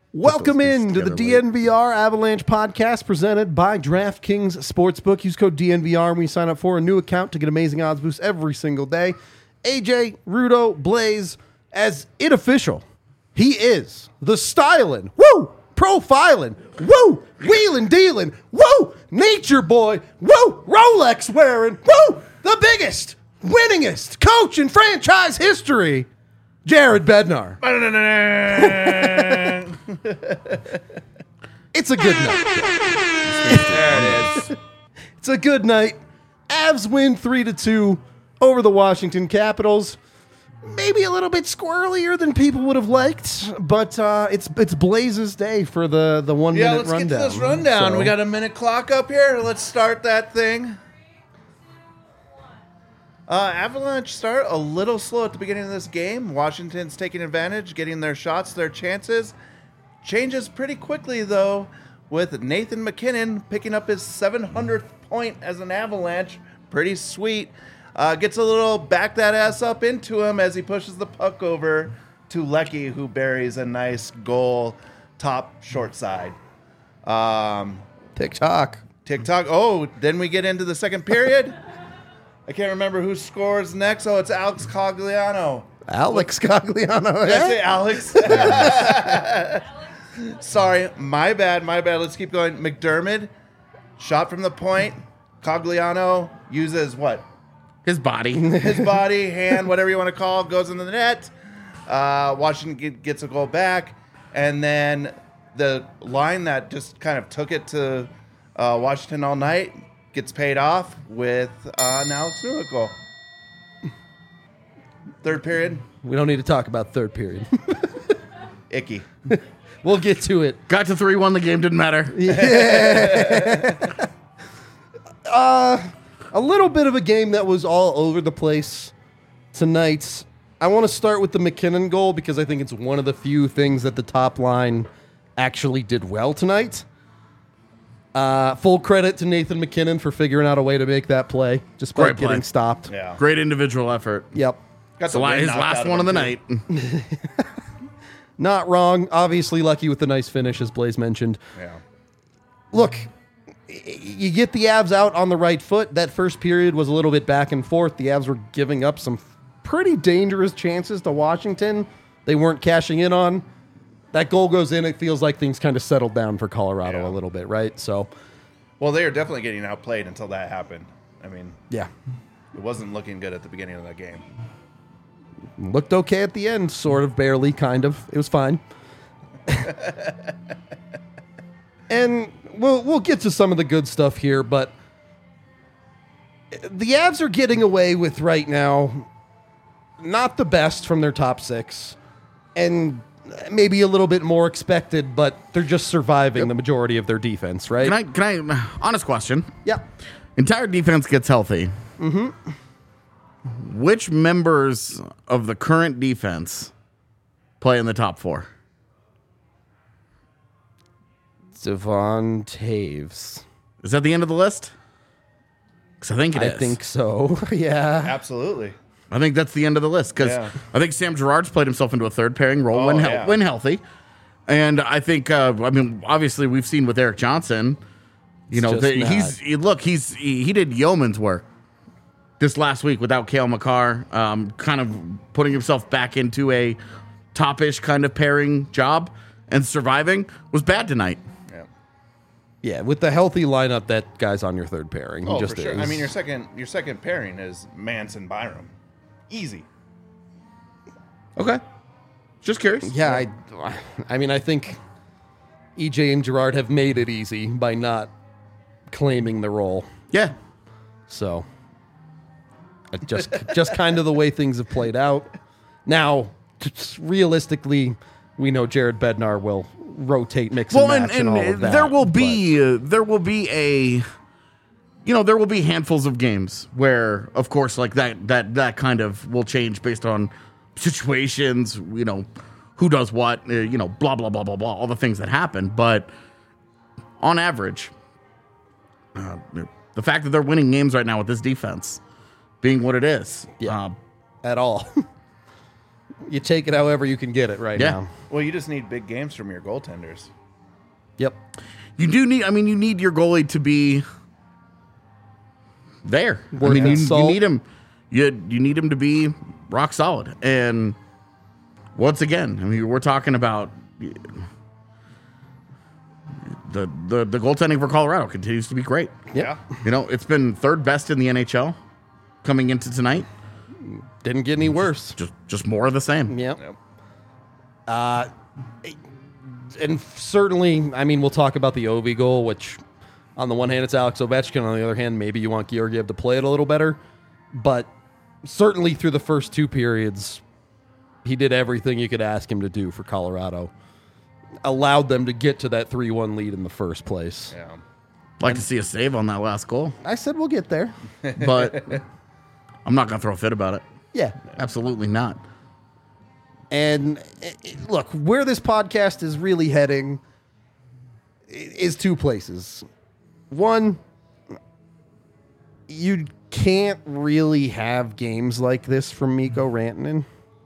Welcome in to the DNVR Avalanche podcast presented by DraftKings Sportsbook. Use code DNVR when you sign up for a new account to get amazing odds boosts every single day. AJ, Rudo, Blaze, as it official, he is the styling, woo, profiling, woo, wheeling, dealing, woo, nature boy, woo, Rolex wearing, woo, the biggest, winningest coach in franchise history, Jared Bednar. It's a good night. There it is. It's a good night. Avs win 3-2 over the Washington Capitals. Maybe a little bit squirrelier than people would have liked, but it's Blaze's day for the 1 minute let's rundown. get to this rundown. So- We got a minute clock up here. Let's start that thing. Avalanche start a little slow at the beginning of this game. Washington's taking advantage, getting their shots, their chances. Changes pretty quickly, though, with Nathan MacKinnon picking up his 700th point as an Avalanche. Pretty sweet. Gets a little back that ass up into him as he pushes the puck over to Lecky, who buries a nice goal top short side. TikTok. Oh, then we get into the second period. I can't remember who scores next. Oh, it's Alex Cogliano. Alex Cogliano. Did I say Alex? Sorry, my bad. Let's keep going. McDermott, shot from the point. Cogliano uses what? His body. His body, hand, whatever you want to call it, goes into the net. Washington gets a goal back. And then the line that just kind of took it to Washington all night gets paid off with an Alex Newhook goal. Third period. We don't need to talk about third period. Icky. We'll get to it. Got to 3-1, the game didn't matter. A little bit of a game that was all over the place tonight. I want to start with the MacKinnon goal because I think it's one of the few things that the top line actually did well tonight. Full credit to Nathan MacKinnon for figuring out a way to make that play despite Great play. getting stopped. Yeah. Great individual effort. Yep. Got So the wind his knocked last out one of the him, too. night. Not wrong. Obviously lucky with the nice finish, as Blaze mentioned. Yeah. Look, you get the Avs out on the right foot. That first period was a little bit back and forth. The Avs were giving up some pretty dangerous chances to Washington. They weren't cashing in on. That goal goes in. It feels like things kind of settled down for Colorado a little bit, right? So, Well, they were definitely getting outplayed until that happened. I mean, yeah. it wasn't looking good at the beginning of that game. Looked okay at the end, sort of, barely, kind of. It was fine. And we'll get to some of the good stuff here, but the Avs are getting away with right now not the best from their top six, and maybe a little bit more expected, but they're just surviving the majority of their defense, right? Can I, honest question. Yeah. Entire defense gets healthy. Mm-hmm. Which members of the current defense play in the top four? Devon Taves. Is that the end of the list? Because I think it is. I think so. Yeah. Absolutely. I think that's the end of the list because Yeah. I think Sam Girard's played himself into a third pairing role when healthy. And I think, obviously we've seen with Eric Johnson, he did yeoman's work this last week without Cale Makar, kind of putting himself back into a top-ish kind of pairing job and surviving was bad tonight. Yeah. Yeah, with the healthy lineup, that guy's on your third pairing. He Oh, just for sure. is. I mean, your second pairing is Manson Byram. Easy. Okay. Just curious. Yeah, I think EJ and Girard have made it easy by not claiming the role. Yeah. So, just kind of the way things have played out. Now, just realistically, we know Jared Bednar will rotate, mix and match, and all of that. there will be handfuls of games where, of course, like that kind of will change based on situations, who does what, blah, blah, blah, blah, blah, all the things that happen. But on average, the fact that they're winning games right now with this defense being what it is. At all. You take it however you can get it right Yeah. now. Well, you just need big games from your goaltenders. Yep. You do need. I mean, you need your goalie to be there. Worth you his salt. need him. You need him to be rock solid. And once again, I mean, we're talking about the goaltending for Colorado continues to be great. Yeah. You know, it's been third best in the NHL coming into tonight. Didn't get any worse. Just more of the same. Yep. Yep. And certainly, I mean, we'll talk about the Ovi goal, which on the one hand, it's Alex Ovechkin. On the other hand, maybe you want Georgiev to play it a little better. But certainly through the first two periods, he did everything you could ask him to do for Colorado. Allowed them to get to that 3-1 lead in the first place. Yeah. Like to see a save on that last goal, I said we'll get there. but I'm not going to throw a fit about it. Yeah. Absolutely not. And look, where this podcast is really heading is two places. One, you can't really have games like this from Mikko Rantanen.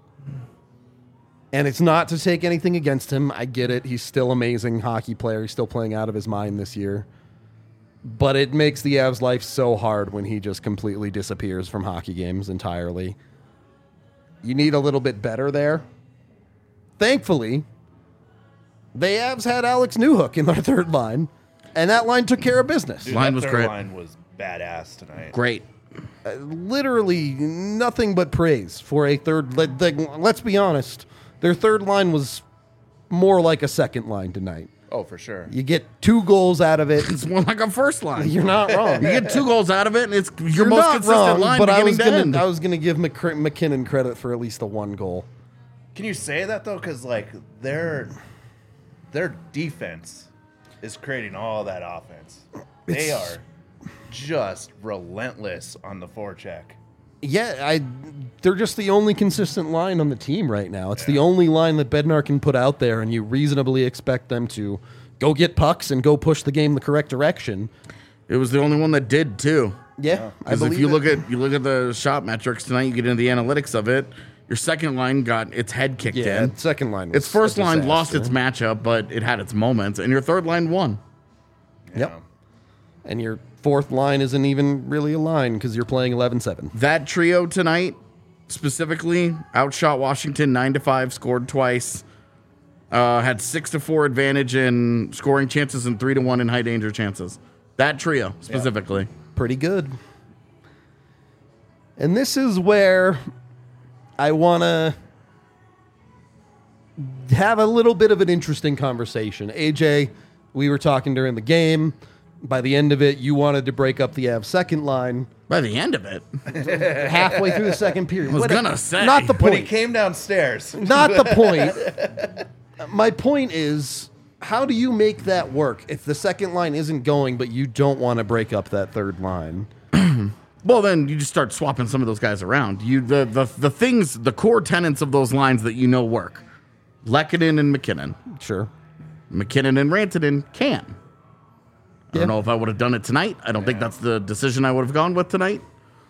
And it's not to take anything against him. I get it. He's still an amazing hockey player. He's still playing out of his mind this year. But it makes the Avs' life so hard when he just completely disappears from hockey games entirely. You need a little bit better there. Thankfully, the Avs had Alex Newhook in their third line, and that line took care of business. Dude, Line that was third great. line was badass tonight. Great. Literally nothing but praise for a third. Let's be honest, their third line was more like a second line tonight. Oh, for sure. You get 2 goals out of it. It's more like a first line. You're not wrong. You get 2 goals out of it, and it's your You're most not consistent wrong, line but I beginning was to end. gonna give McKinnon credit for at least the 1 goal. Can you say that though? Because like their defense is creating all that offense. They are just relentless on the forecheck. Yeah, they're just the only consistent line on the team right now. It's the only line that Bednar can put out there, and you reasonably expect them to go get pucks and go push the game the correct direction. It was the only one that did too. Yeah, I Because if believe you it. look at the shot metrics tonight, you get into the analytics of it. Your second line got its head kicked Yeah, in. second line was Its first a line lost disaster. its matchup, but it had its moments, and your third line won. Yep. And your fourth line isn't even really a line because you're playing 11-7. That trio tonight, specifically, outshot Washington 9-5, scored twice, had 6-4 advantage in scoring chances and 3-1 in high danger chances. That trio specifically. Pretty good. And this is where I want to have a little bit of an interesting conversation. AJ, we were talking during the game. By the end of it, you wanted to break up the Avs second line By the end of it, halfway through the second period. I was gonna say. Not the When he point. came downstairs, Not the point. My point is, how do you make that work if the second line isn't going, but you don't want to break up that third line? well, then you just start swapping some of those guys around. The things, the core tenets of those lines that you know work. Lehkonen and McKinnon. Sure. McKinnon and Rantanen can. I Yeah. don't know if I would have done it tonight. I don't think that's the decision I would have gone with tonight.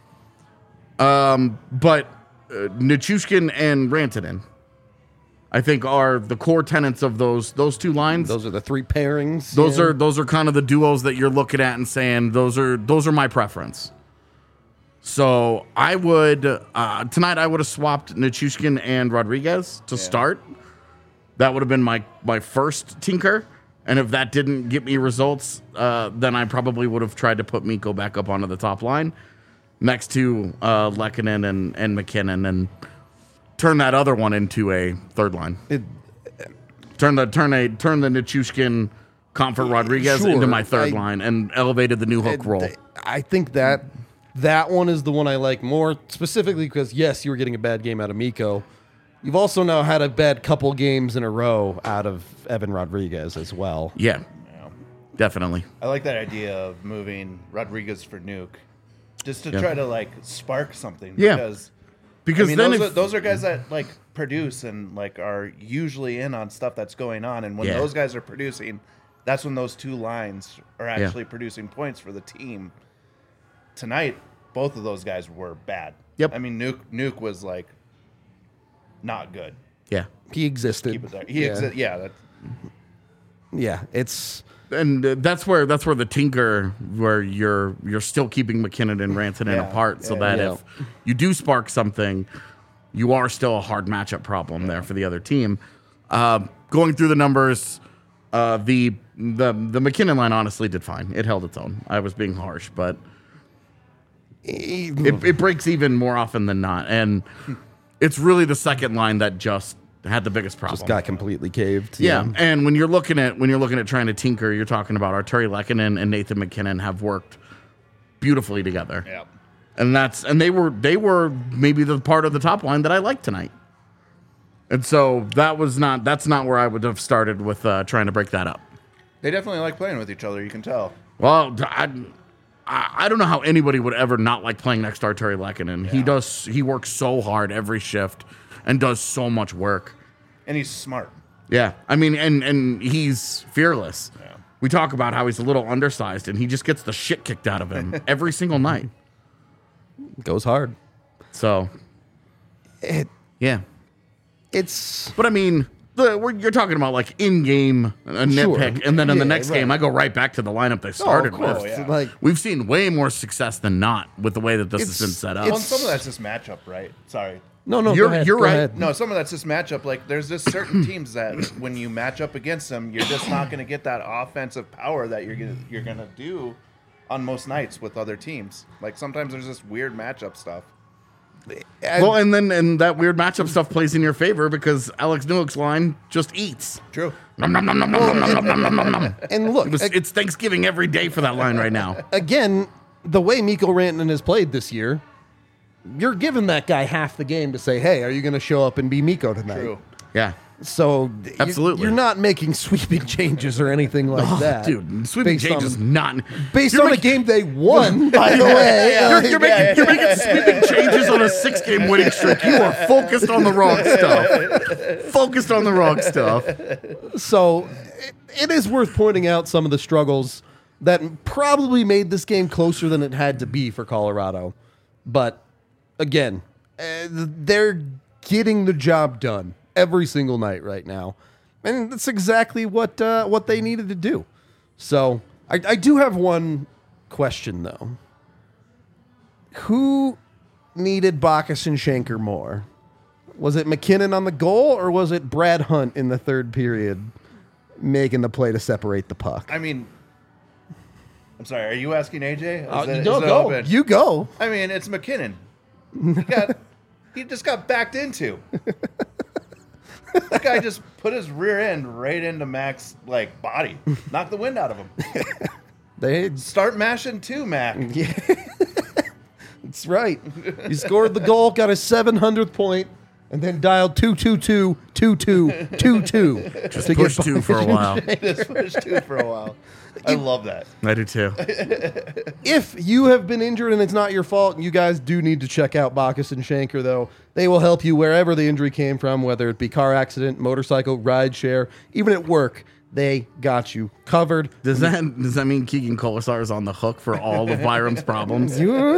But Nichushkin and Rantanen, I think, are the core tenets of those 2 lines. Those are the 3 pairings. Those are kind of the duos that you're looking at and saying those are my preference. So I would tonight I would have swapped Nichushkin and Rodriguez to start. That would have been my first tinker. And if that didn't get me results, then I probably would have tried to put Mikko back up onto the top line next to Lehkonen and McKinnon and turn that other one into a third line. Turn the Nichushkin, Comfort Rodriguez Sure, into my third line and elevated the new hook role. I think that one is the one I like more, specifically because, yes, you were getting a bad game out of Mikko. You've also now had a bad couple games in a row out of Evan Rodriguez as well. Yeah, definitely. I like that idea of moving Rodriguez for Nuke, just to try to like spark something. Yeah. Because I mean, then those are guys that like produce and like are usually in on stuff that's going on, and when Yeah. those guys are producing, that's when those 2 lines are actually producing points for the team. Tonight, both of those guys were bad. Yep. I mean, Nuke was like not good. Yeah. He existed. Keep it there. Yeah. Yeah, it's And that's where the tinker, where you're still keeping McKinnon and Rantanen apart, so that if you do spark something, you are still a hard matchup problem there for the other team. Going through the numbers, the McKinnon line honestly did fine. It held its own. I was being harsh, but it breaks even more often than not, and it's really the second line that just had the biggest problem. just got completely caved. Yeah, and when you're looking at trying to tinker, you're talking about Arturi Lehkonen and Nathan McKinnon have worked beautifully together. Yeah. And they were maybe the part of the top line that I liked tonight. And so that's not where I would have started with trying to break that up. They definitely like playing with each other. You can tell. Well, I don't know how anybody would ever not like playing next to Arturi Lehkonen. Yeah. He works so hard every shift and does so much work. And he's smart. Yeah. I mean, and he's fearless. Yeah. We talk about how he's a little undersized, and he just gets the shit kicked out of him every single night. Goes hard. So, yeah. It's But I mean, you're talking about like in-game a nitpick, and then in the next game, I go right back to the lineup they started with. yeah. like We've seen way more success than not with the way that this has been set up. Well, and some of that's just matchup, right? Sorry. no, You're- go ahead, you're go right. ahead. No, some of that's just matchup. Like, there's just certain teams that when you match up against them, you're just not going to get that offensive power that you're gonna do on most nights with other teams. Like, sometimes there's just weird matchup stuff. Well, and that weird matchup stuff plays in your favor because Alex Newhook's line just eats. True. Nom, nom, nom, nom, nom, nom, nom, nom, nom, nom. And look, It's Thanksgiving every day for that line right now. again, the way Mikko Rantanen has played this year, you're giving that guy half the game to say, hey, are you going to show up and be Mikko tonight? True. Yeah. So Absolutely. you're not making sweeping changes or anything like that. Dude, sweeping Based changes on- not... Based You're on a making- game they won, by the way. You're making sweeping changes on a 6-game winning streak. You are focused on the wrong stuff. Focused on the wrong stuff. So it is worth pointing out some of the struggles that probably made this game closer than it had to be for Colorado. But again, they're getting the job done every single night right now. And that's exactly what they needed to do. So I do have one question, though. Who needed Bacchus and Schenker more? Was it McKinnon on the goal, or was it Brad Hunt in the third period making the play to separate the puck? I mean, I'm sorry. Are you asking AJ? Go. You go. I mean, it's McKinnon. He just got backed into. That guy just put his rear end right into Mac's body, knocked the wind out of him. They Start mashing too, Mac. That's right. He scored the goal, got his 700th point, and then dialed 222-2222. Just push 2 for a while. Just pushed 2 for a while. I love that. I do too. If you have been injured and it's not your fault, you guys do need to check out Bacchus and Schenker, though. They will help you wherever the injury came from, whether it be car accident, motorcycle, ride share, even at work. They got you covered. Does that mean Keegan Colasar is on the hook for all of Byram's problems?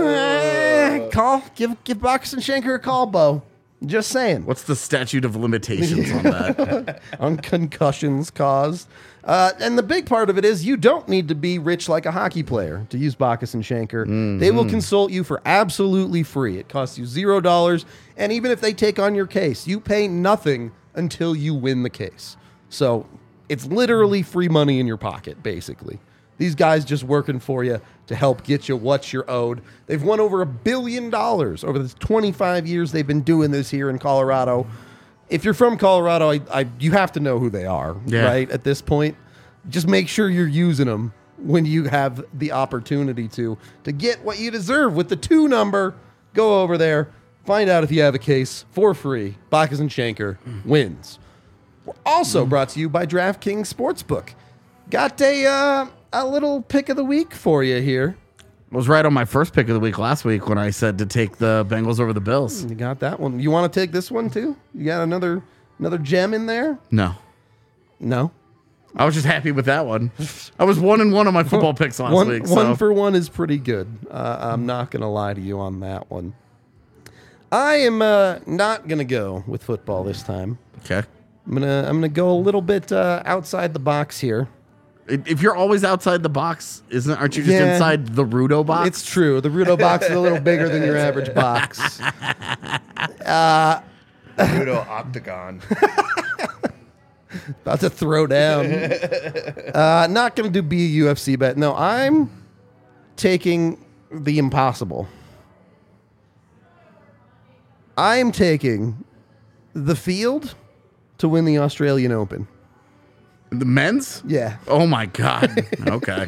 Give Bacchus and Schenker a call, Bo. Just saying. What's the statute of limitations on that? On concussions caused. And the big part of it is you don't need to be rich like a hockey player to use Bacchus and Schenker. Mm-hmm. They will consult you for absolutely free. It costs you $0. And even if they take on your case, you pay nothing until you win the case. So it's literally free money in your pocket, basically. These guys just working for you to help get you what you're owed. They've won over $1 billion over the 25 years they've been doing this here in Colorado. If you're from Colorado, you have to know who they are, right? At this point, just make sure you're using them when you have the opportunity to get what you deserve with the 2 number. Go over there, find out if you have a case for free. Bacchus and Schenker wins. We're also brought to you by DraftKings Sportsbook. Got a little pick of the week for you here. I was right on my first pick of the week last week when I said to take the Bengals over the Bills. You got that one. You want to take this one too? You got another gem in there? No. No. I was just happy with that one. I was 1-1 on my football picks last week. So. 1 for 1 is pretty good. I'm not going to lie to you on that one. I am not gonna go with football this time. Okay. I'm gonna go a little bit outside the box here. If you're always outside the box, aren't you just Yeah. inside the Rudo box? It's true. The Rudo box is a little bigger than your average box. Rudo Octagon. About to throw down. Not going to be a UFC bet. No, I'm taking the impossible. I'm taking the Field to win the Australian Open. The men's? Yeah. Oh my God. Okay.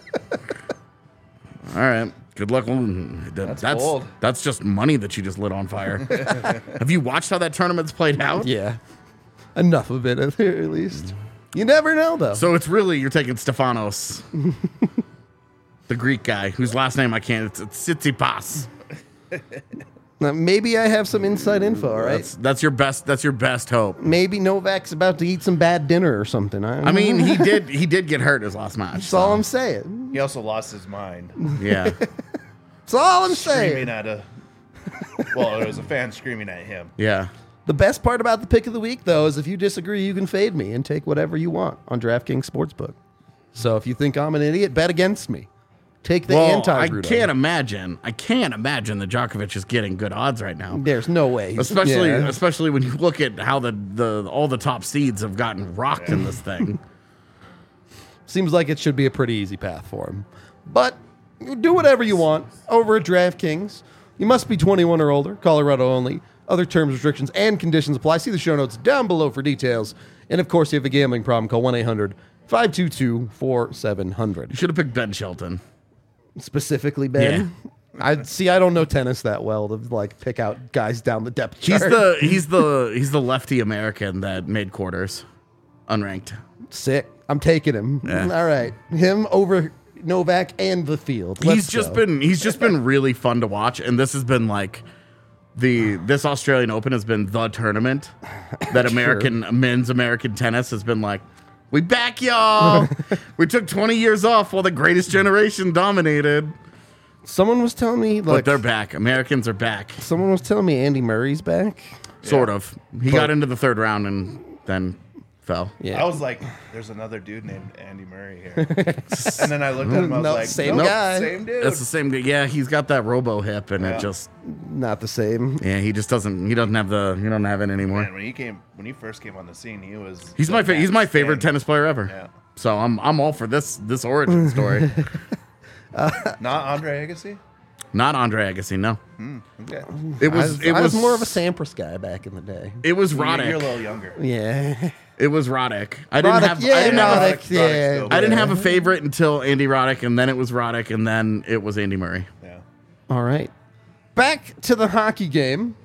All right. Good luck. That's bold. That's just money that you just lit on fire. Have you watched how that tournament's played out? Yeah. Enough of it, at least. You never know, though. So it's really, you're taking Stefanos, the Greek guy whose last name I can't. It's Tsitsipas. Now, maybe I have some inside info, all right? That's your best hope. Maybe Novak's about to eat some bad dinner or something. I mean, he did get hurt his last match. That's all I'm saying. He also lost his mind. Yeah. That's all I'm Screaming saying. at well, there was a fan screaming at him. Yeah. The best part about the pick of the week, though, is if you disagree, you can fade me and take whatever you want on DraftKings Sportsbook. So if you think I'm an idiot, bet against me. Take the Well, anti-Rudo. I can't imagine that Djokovic is getting good odds right now. There's no way. Especially when you look at how all the top seeds have gotten rocked in this thing. Seems like it should be a pretty easy path for him. But do whatever you want over at DraftKings. You must be 21 or older, Colorado only. Other terms, restrictions, and conditions apply. See the show notes down below for details. And of course, if you have a gambling problem, call 1-800-522-4700. You should have picked Ben Shelton. Specifically, Ben. I don't know tennis that well to like pick out guys down the depth chart. He's the lefty American that made quarters, unranked. Sick. I'm taking him. Yeah. All right, him over Novak and the Field. Let's He's go. just been really fun to watch, and this has been like this Australian Open has been the tournament that men's American tennis has been like. We back y'all. We took 20 years off while the greatest generation dominated. Someone was telling me, But like, they're back. Americans are back. someone was telling me Andy Murray's back. Sort of. He got into the third round and then fell. Yeah. I was like, there's another dude named Andy Murray here. And then I looked at him, I was No, like, same nope, guy. Same dude. That's the same guy. Yeah, he's got that robo hip and Yeah. it just Not the same. he doesn't have it anymore. Man, when he first came on the scene, he was He's my favorite thing. tennis player ever. Yeah. So I'm all for this origin story. Not Andre Agassi? Not Andre Agassi, no. Okay. It was I was more of a Sampras guy back in the day. it was You're a Roddick. little younger. Yeah. It was Roddick. Roddick, yeah. still I didn't Yeah. have a favorite until Andy Roddick, and then it was Roddick, and then it was Andy Murray. Yeah. All right. Back to the hockey game.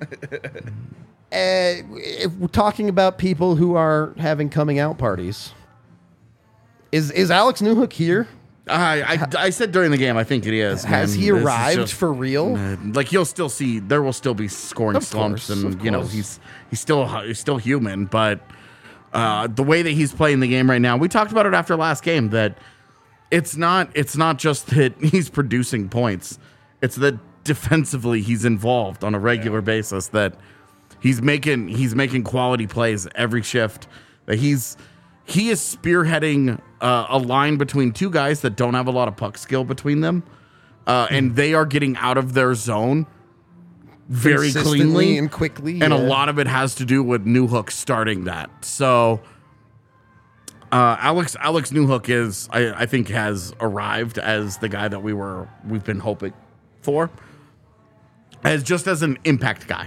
If we're talking about people who are having coming out parties, is Alex Newhook here? I said during the game, I think it is. Has man. he This is arrived just- for real? Like there will still be scoring Of slumps, course, and of you know course. he's still human. But the way that he's playing the game right now, we talked about it after last game that it's not just that he's producing points; it's that defensively he's involved on a regular basis. That he's making quality plays every shift. That he is spearheading a line between two guys that don't have a lot of puck skill between them, and they are getting out of their zone very Consistently cleanly and quickly. and a yeah. lot of it has to do with Newhook starting that. So Alex Newhook I think has arrived as the guy that we've been hoping for, as an impact guy.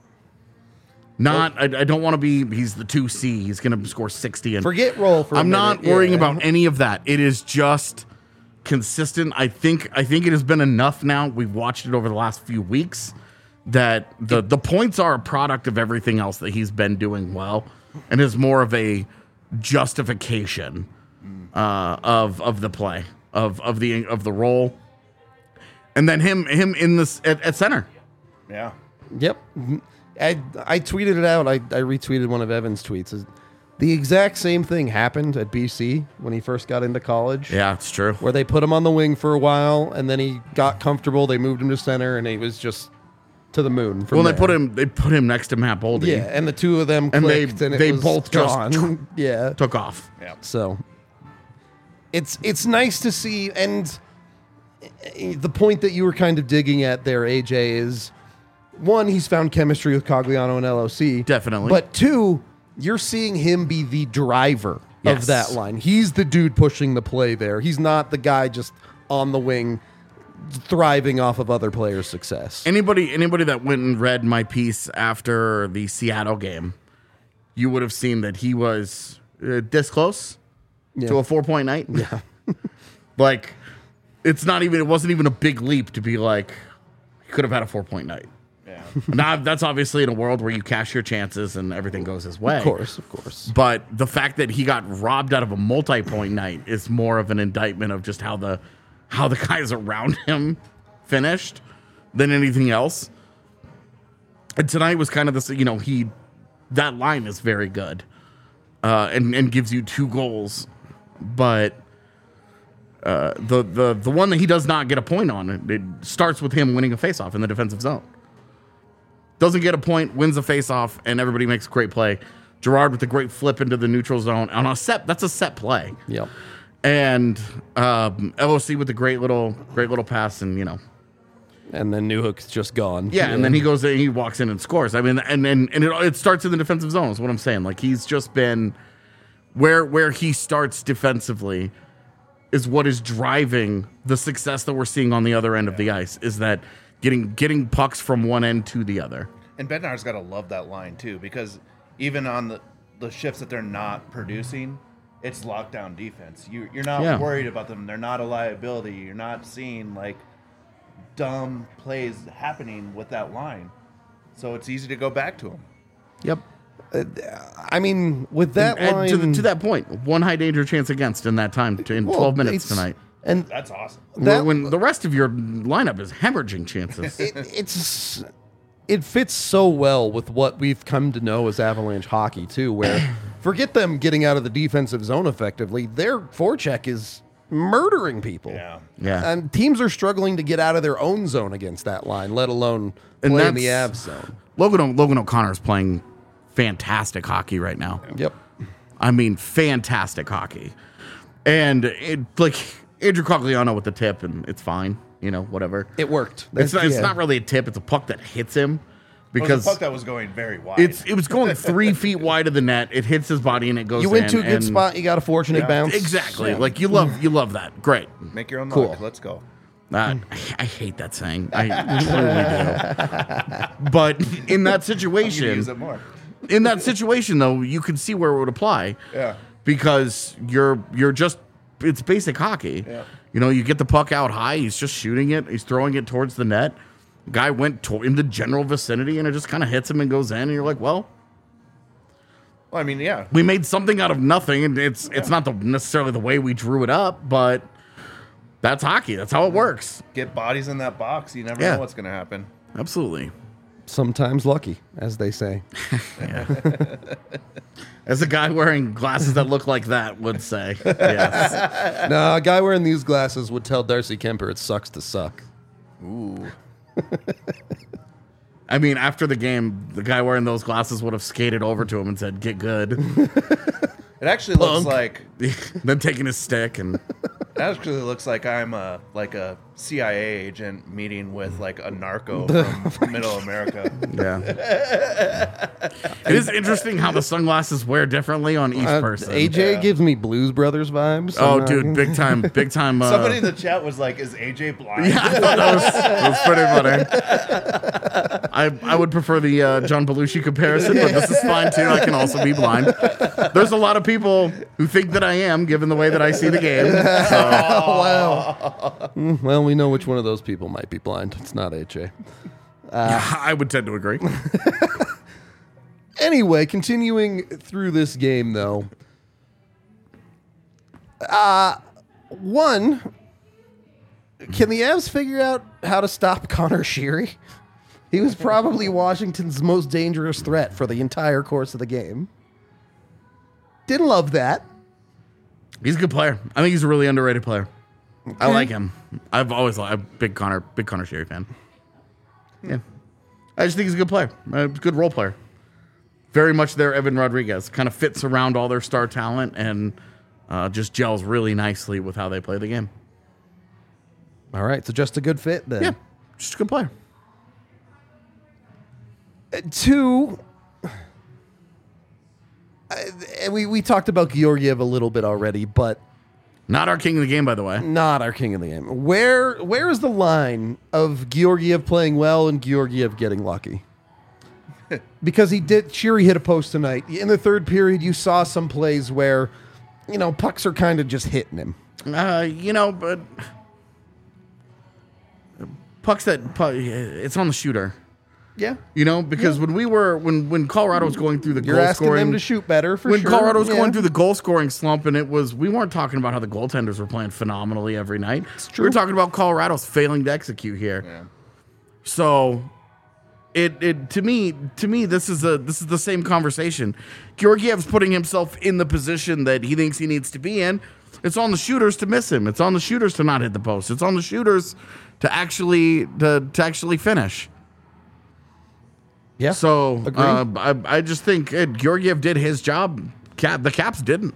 I don't want to be. He's the 2C. He's going to score 60. And Forget roll for a I'm not minute, worrying yeah. about any of that. It is just consistent. I think it has been enough now. We've watched it over the last few weeks that the points are a product of everything else that he's been doing well, and is more of a justification of the play of the role, and then him in this at center. Yeah. Yep. I tweeted it out. I retweeted one of Evan's tweets. The exact same thing happened at BC when he first got into college. Yeah, it's true. Where they put him on the wing for a while, and then he got comfortable. They moved him to center, and he was just to the moon. From Well, there. they put him next to Matt Boldy. Yeah, and the two of them And clicked, and they it was both gone. just yeah, took off. Yeah. so it's nice to see, and the point that you were kind of digging at there, AJ, is one, he's found chemistry with Cogliano and LOC. Definitely. But two, you're seeing him be the driver Yes. of that line. He's the dude pushing the play there. He's not the guy just on the wing thriving off of other players' success. Anybody that went and read my piece after the Seattle game, you would have seen that he was this close to a 4-point night. Yeah. Like, it wasn't even a big leap to be like, he could have had a 4-point night. Yeah. Now, that's obviously in a world where you cash your chances and everything goes his way. Of course. But the fact that he got robbed out of a multi-point night is more of an indictment of just how the guys around him finished than anything else. And tonight was kind of this, that line is very good, and gives you 2 goals, but the one that he does not get a point on, it starts with him winning a faceoff in the defensive zone. Doesn't get a point, wins the faceoff, and everybody makes a great play. Gerard with a great flip into the neutral zone on a set. That's a set play. Yep. And LOC with a great little pass, and And then Newhook's just gone. yeah, and then he goes in, he walks in and scores. I mean, and it starts in the defensive zone. Is what I'm saying. Like, he's just been where he starts defensively is what is driving the success that we're seeing on the other end of the ice. Is that getting pucks from one end to the other. And Bednar's got to love that line, too, because even on the shifts that they're not producing, it's lockdown defense. You're not worried about them. They're not a liability. You're not seeing, like, dumb plays happening with that line. So it's easy to go back to them. Yep. I mean, with that And line... to that point, 1 high danger chance against in that time in 12 minutes it's- tonight. And That's awesome. When the rest of your lineup is hemorrhaging chances. it fits so well with what we've come to know as Avalanche hockey too, where forget them getting out of the defensive zone effectively, their forecheck is murdering people. Yeah. Yeah. And teams are struggling to get out of their own zone against that line, let alone And play in the that's- Avs zone. Logan O'Connor is playing fantastic hockey right now. Yep. I mean, fantastic hockey. And Andrew Cogliano with the tip, and it's fine. Whatever. It worked. It's not really a tip. It's a puck that hits him. It was Because a puck that was going very wide. it was going 3 feet wide of the net. It hits his body and it goes in. You went to a good and- spot, you got a fortunate bounce. Exactly. Yeah. Like, you love that. Great. Make your own Cool. luck. Let's go. I hate that saying. I truly do. But in that You use situation, it more. though, you could see where it would apply. Yeah. Because you're just, it's basic hockey. Yeah. You get the puck out high. He's just shooting it. He's throwing it towards the net. Guy went in the general vicinity, and it just kind of hits him and goes in. And you're like, well, Well, I mean, yeah. we made something out of nothing, and it's not necessarily the way we drew it up, but that's hockey. That's how it works. Get bodies in that box. You never Yeah. know what's going to happen. Absolutely. Sometimes lucky, as they say. As a guy wearing glasses that look like that would say, yes. No, a guy wearing these glasses would tell Darcy Kemper it sucks to suck. Ooh. I mean, after the game, the guy wearing those glasses would have skated over to him and said, "Get good." It actually looks like Then taking his stick and I'm a CIA agent meeting with like a narco from Middle America. yeah. It is interesting how the sunglasses wear differently on each person. AJ Yeah. gives me Blues Brothers vibes. Oh, I'm dude, not- big time. Somebody in the chat was like, "Is AJ blind?" Yeah, I thought that was pretty funny. I would prefer the John Belushi comparison, but this is fine too. I can also be blind. There's a lot of people who think that I am, given the way that I see the game. So, Oh, wow. Well, we know which one of those people might be blind. It's not AJ. I would tend to agree. Anyway, continuing through this game, though. One, can the Avs figure out how to stop Connor Sheary? He was probably Washington's most dangerous threat for the entire course of the game. Didn't love that. He's a good player. I think he's a really underrated player. I like him. I've always liked a big Connor Sheary fan. Yeah. I just think he's a good player, a good role player. Very much their Evan Rodriguez. Kind of fits around all their star talent and just gels really nicely with how they play the game. All right, so just a good fit then. Yeah, just a good player. 2, and we talked about Georgiev a little bit already, but Not our king of the game, by the way. not our king of the game. Where is the line of Georgiev playing well and Georgiev getting lucky? Because Shiri hit a post tonight. In the third period, you saw some plays where, pucks are kind of just hitting him. But it's on the shooter. Yeah. Because when Colorado was going through the You're goal asking scoring, them to shoot better for when sure. Colorado was Yeah. going through the goal scoring slump, and we weren't talking about how the goaltenders were playing phenomenally every night. true. We were talking about Colorado's failing to execute here. Yeah. So to me this is the same conversation. Georgiev's putting himself in the position that he thinks he needs to be in. It's on the shooters to miss him. It's on the shooters to not hit the post. It's on the shooters to actually finish. Yeah. So Agreed. I just think Georgiev did his job. The Caps didn't.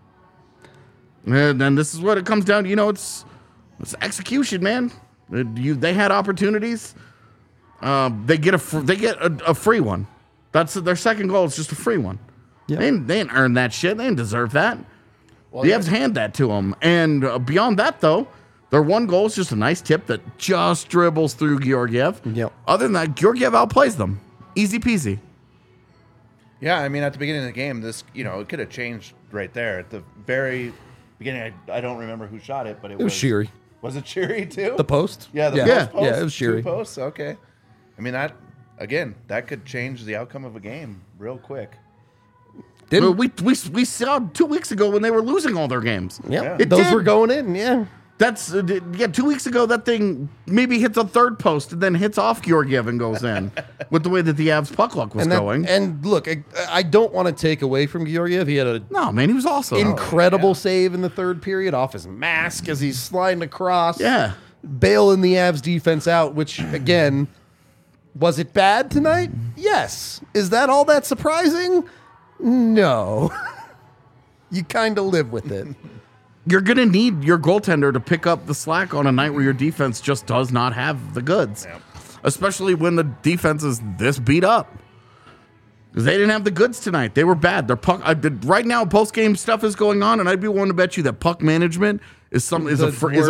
And this is what it comes down to. It's execution, man. They had opportunities. They get a free one. That's their second goal. Is just a free one. Yeah. They didn't earn that shit. They didn't deserve that. Well, The Avs hand that to them. And beyond that, though, their one goal is just a nice tip that just dribbles through Georgiev. Yep. Other than that, Georgiev outplays them. Easy peasy. Yeah, I mean, at the beginning of the game, this, it could have changed right there. At the very beginning, I don't remember who shot it, but it was Shiri. Was it Shiri, too? The post? Yeah, the Yeah. post. Yeah, it was Shiri. Two posts, okay. I mean, that could change the outcome of a game real quick. Didn't We saw 2 weeks ago when they were losing all their games. Yeah. It Those did. were going in, yeah. That's 2 weeks ago. That thing maybe hits a third post and then hits off Georgiev and goes in with the way that the Avs puck luck was going. And look, I don't want to take away from Georgiev. He had an No, man, he was awesome. incredible save in the third period off his mask as he's sliding across. Yeah. Bailing the Avs defense out, which, again, was it bad tonight? Yes. Is that all that surprising? No. You kind of live with it. You're going to need your goaltender to pick up the slack on a night where your defense just does not have the goods, especially when the defense is this beat up. Because they didn't have the goods tonight. They were bad. Their puck right now, post game stuff is going on, and I'd be willing to bet you that puck management is a phrase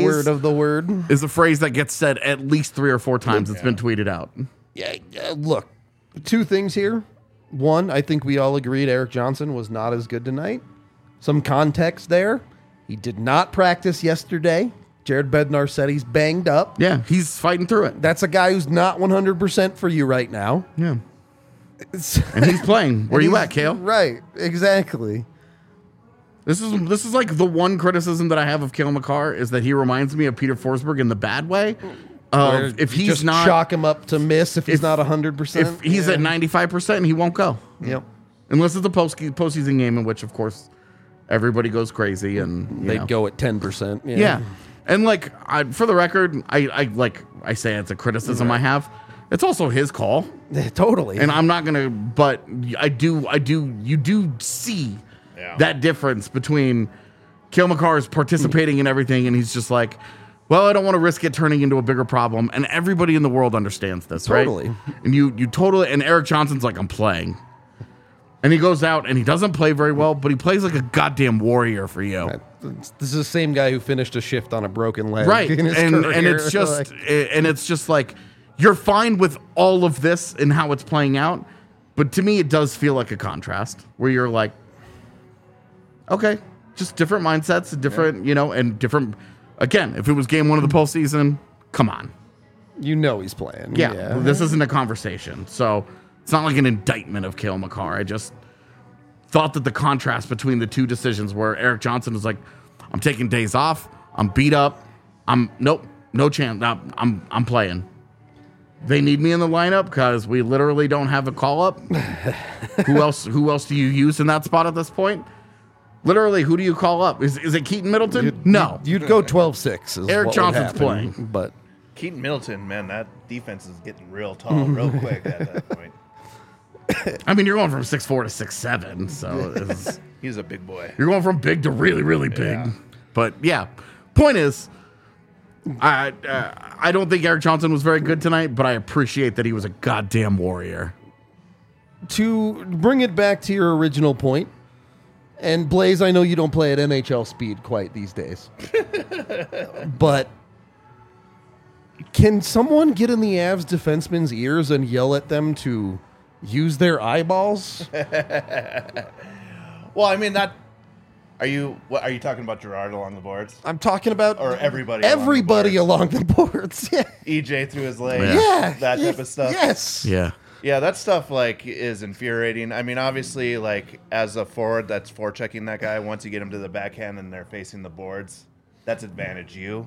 is a phrase that gets said at least 3 or 4 times. It's been tweeted out. Yeah, look, 2 things here. One, I think we all agreed Eric Johnson was not as good tonight. Some context there. He did not practice yesterday. Jared Bednar said he's banged up. Yeah, he's fighting through it. That's a guy who's not 100% for you right now. Yeah. And he's playing. Where you at, Kale? Right, exactly. This is like the one criticism that I have of Kale McCarr is that he reminds me of Peter Forsberg in the bad way. If he's just not chalk him up to miss if he's not 100%. if he's at 95%, he won't go. Yep. Unless it's a postseason game in which, of course, everybody goes crazy and They'd go at 10%. Yeah. And for the record, I say it's a criticism I have. It's also his call. Totally. And I'm not gonna, but you do see that difference between Kale McCarr is participating in everything and he's just like, well, I don't want to risk it turning into a bigger problem. And everybody in the world understands this, Totally. right? And you totally, and Eric Johnson's like, I'm playing. And he goes out and he doesn't play very well, but he plays like a goddamn warrior for you. This is the same guy who finished a shift on a broken leg. Right. in his And career. it's just like, you're fine with all of this and how it's playing out. But to me, it does feel like a contrast where you're like, okay, just different mindsets, different, and different. Again, if it was game 1 of the postseason, come on. he's playing. Yeah. This isn't a conversation. So it's not like an indictment of Kale McCarr. I just thought that the contrast between the two decisions where Eric Johnson was like, I'm taking days off. I'm beat up. No chance. I'm playing. They need me in the lineup because we literally don't have a call up. Who else do you use in that spot at this point? Literally, who do you call up? Is it Keaton Middleton? No. You'd go 12-6. Eric Johnson's playing. But Keaton Middleton, man, that defense is getting real tall real quick at that point. I mean, you're going from 6'4" to 6'7", so He's a big boy. you're going from big to really, really big. Yeah. But yeah, point is, I don't think Eric Johnson was very good tonight, but I appreciate that he was a goddamn warrior. To bring it back to your original point, and Blaze, I know you don't play at NHL speed quite these days, but can someone get in the Avs defensemen's ears and yell at them to use their eyeballs? Well, I mean, that. Are you talking about Gerard along the boards? I'm talking about Or everybody along the boards. Yeah. EJ through his legs. Yeah. That type of stuff. Yes. Yeah. Yeah, that stuff like is infuriating. I mean, obviously, like as a forward that's forechecking that guy, once you get him to the backhand and they're facing the boards, that's advantage you.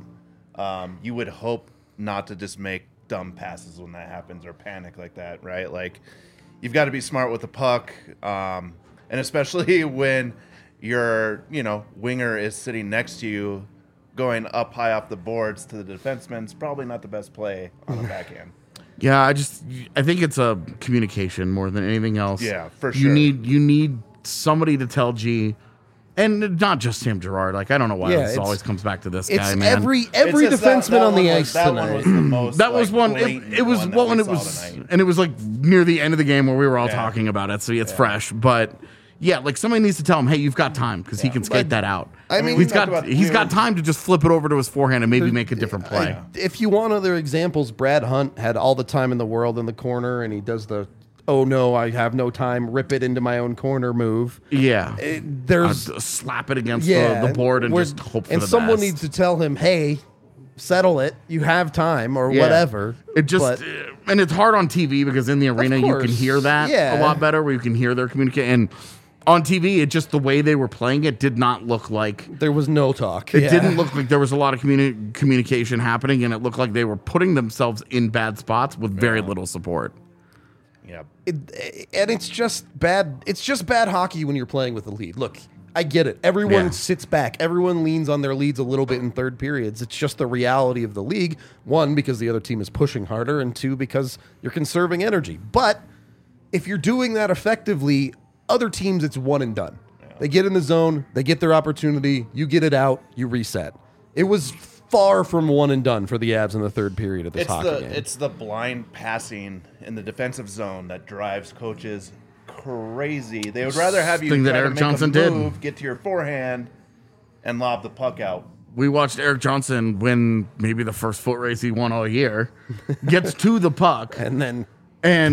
You would hope not to just make dumb passes when that happens or panic like that, right? Like you've got to be smart with the puck, and especially when your winger is sitting next to you, going up high off the boards to the defenseman's probably not the best play on the backhand. Yeah, I think it's a communication more than anything else. Yeah, for sure. You need somebody to tell G, and not just Sam Girard. Like I don't know why this always comes back to this guy, man. Every defenseman on the ice that tonight. one was the most. That was one. blatant It was one one. that It we was, saw tonight. and it was like near the end of the game where we were all Yeah. talking about it. So it's fresh, but. Yeah, like somebody needs to tell him, hey, you've got time because he can skate that out. I mean, he's got time to just flip it over to his forehand and maybe make a different play. If you want other examples, Brad Hunt had all the time in the world in the corner, and he does the "oh no, I have no time, rip it into my own corner" move. Yeah, There's slap it against the board and just hope for and the someone best. needs to tell him, "Hey, settle it. You have time, or whatever." It just and it's hard on TV because in the arena you can course. hear that Yeah. a lot better, where you can hear their communication. And on TV, it just the way they were playing it did not look like. There was no talk. It didn't look like there was a lot of communication happening, and it looked like they were putting themselves in bad spots with very little support. Yeah. And it's just bad. It's just bad hockey when you're playing with the lead. Look, I get it. Everyone sits back. Everyone leans on their leads a little bit in third periods. It's just the reality of the league. One, because the other team is pushing harder, and two, because you're conserving energy. But if you're doing that effectively, other teams, it's one and done. Yeah. They get in the zone, they get their opportunity, you get it out, you reset. It was far from one and done for the Avs in the third period of this hockey game. It's the blind passing in the defensive zone that drives coaches crazy. They would rather have you Thing that try to Eric make Johnson a did. move, get to your forehand, and lob the puck out. We watched Eric Johnson win maybe the first foot race he won all year, gets to the puck, And then and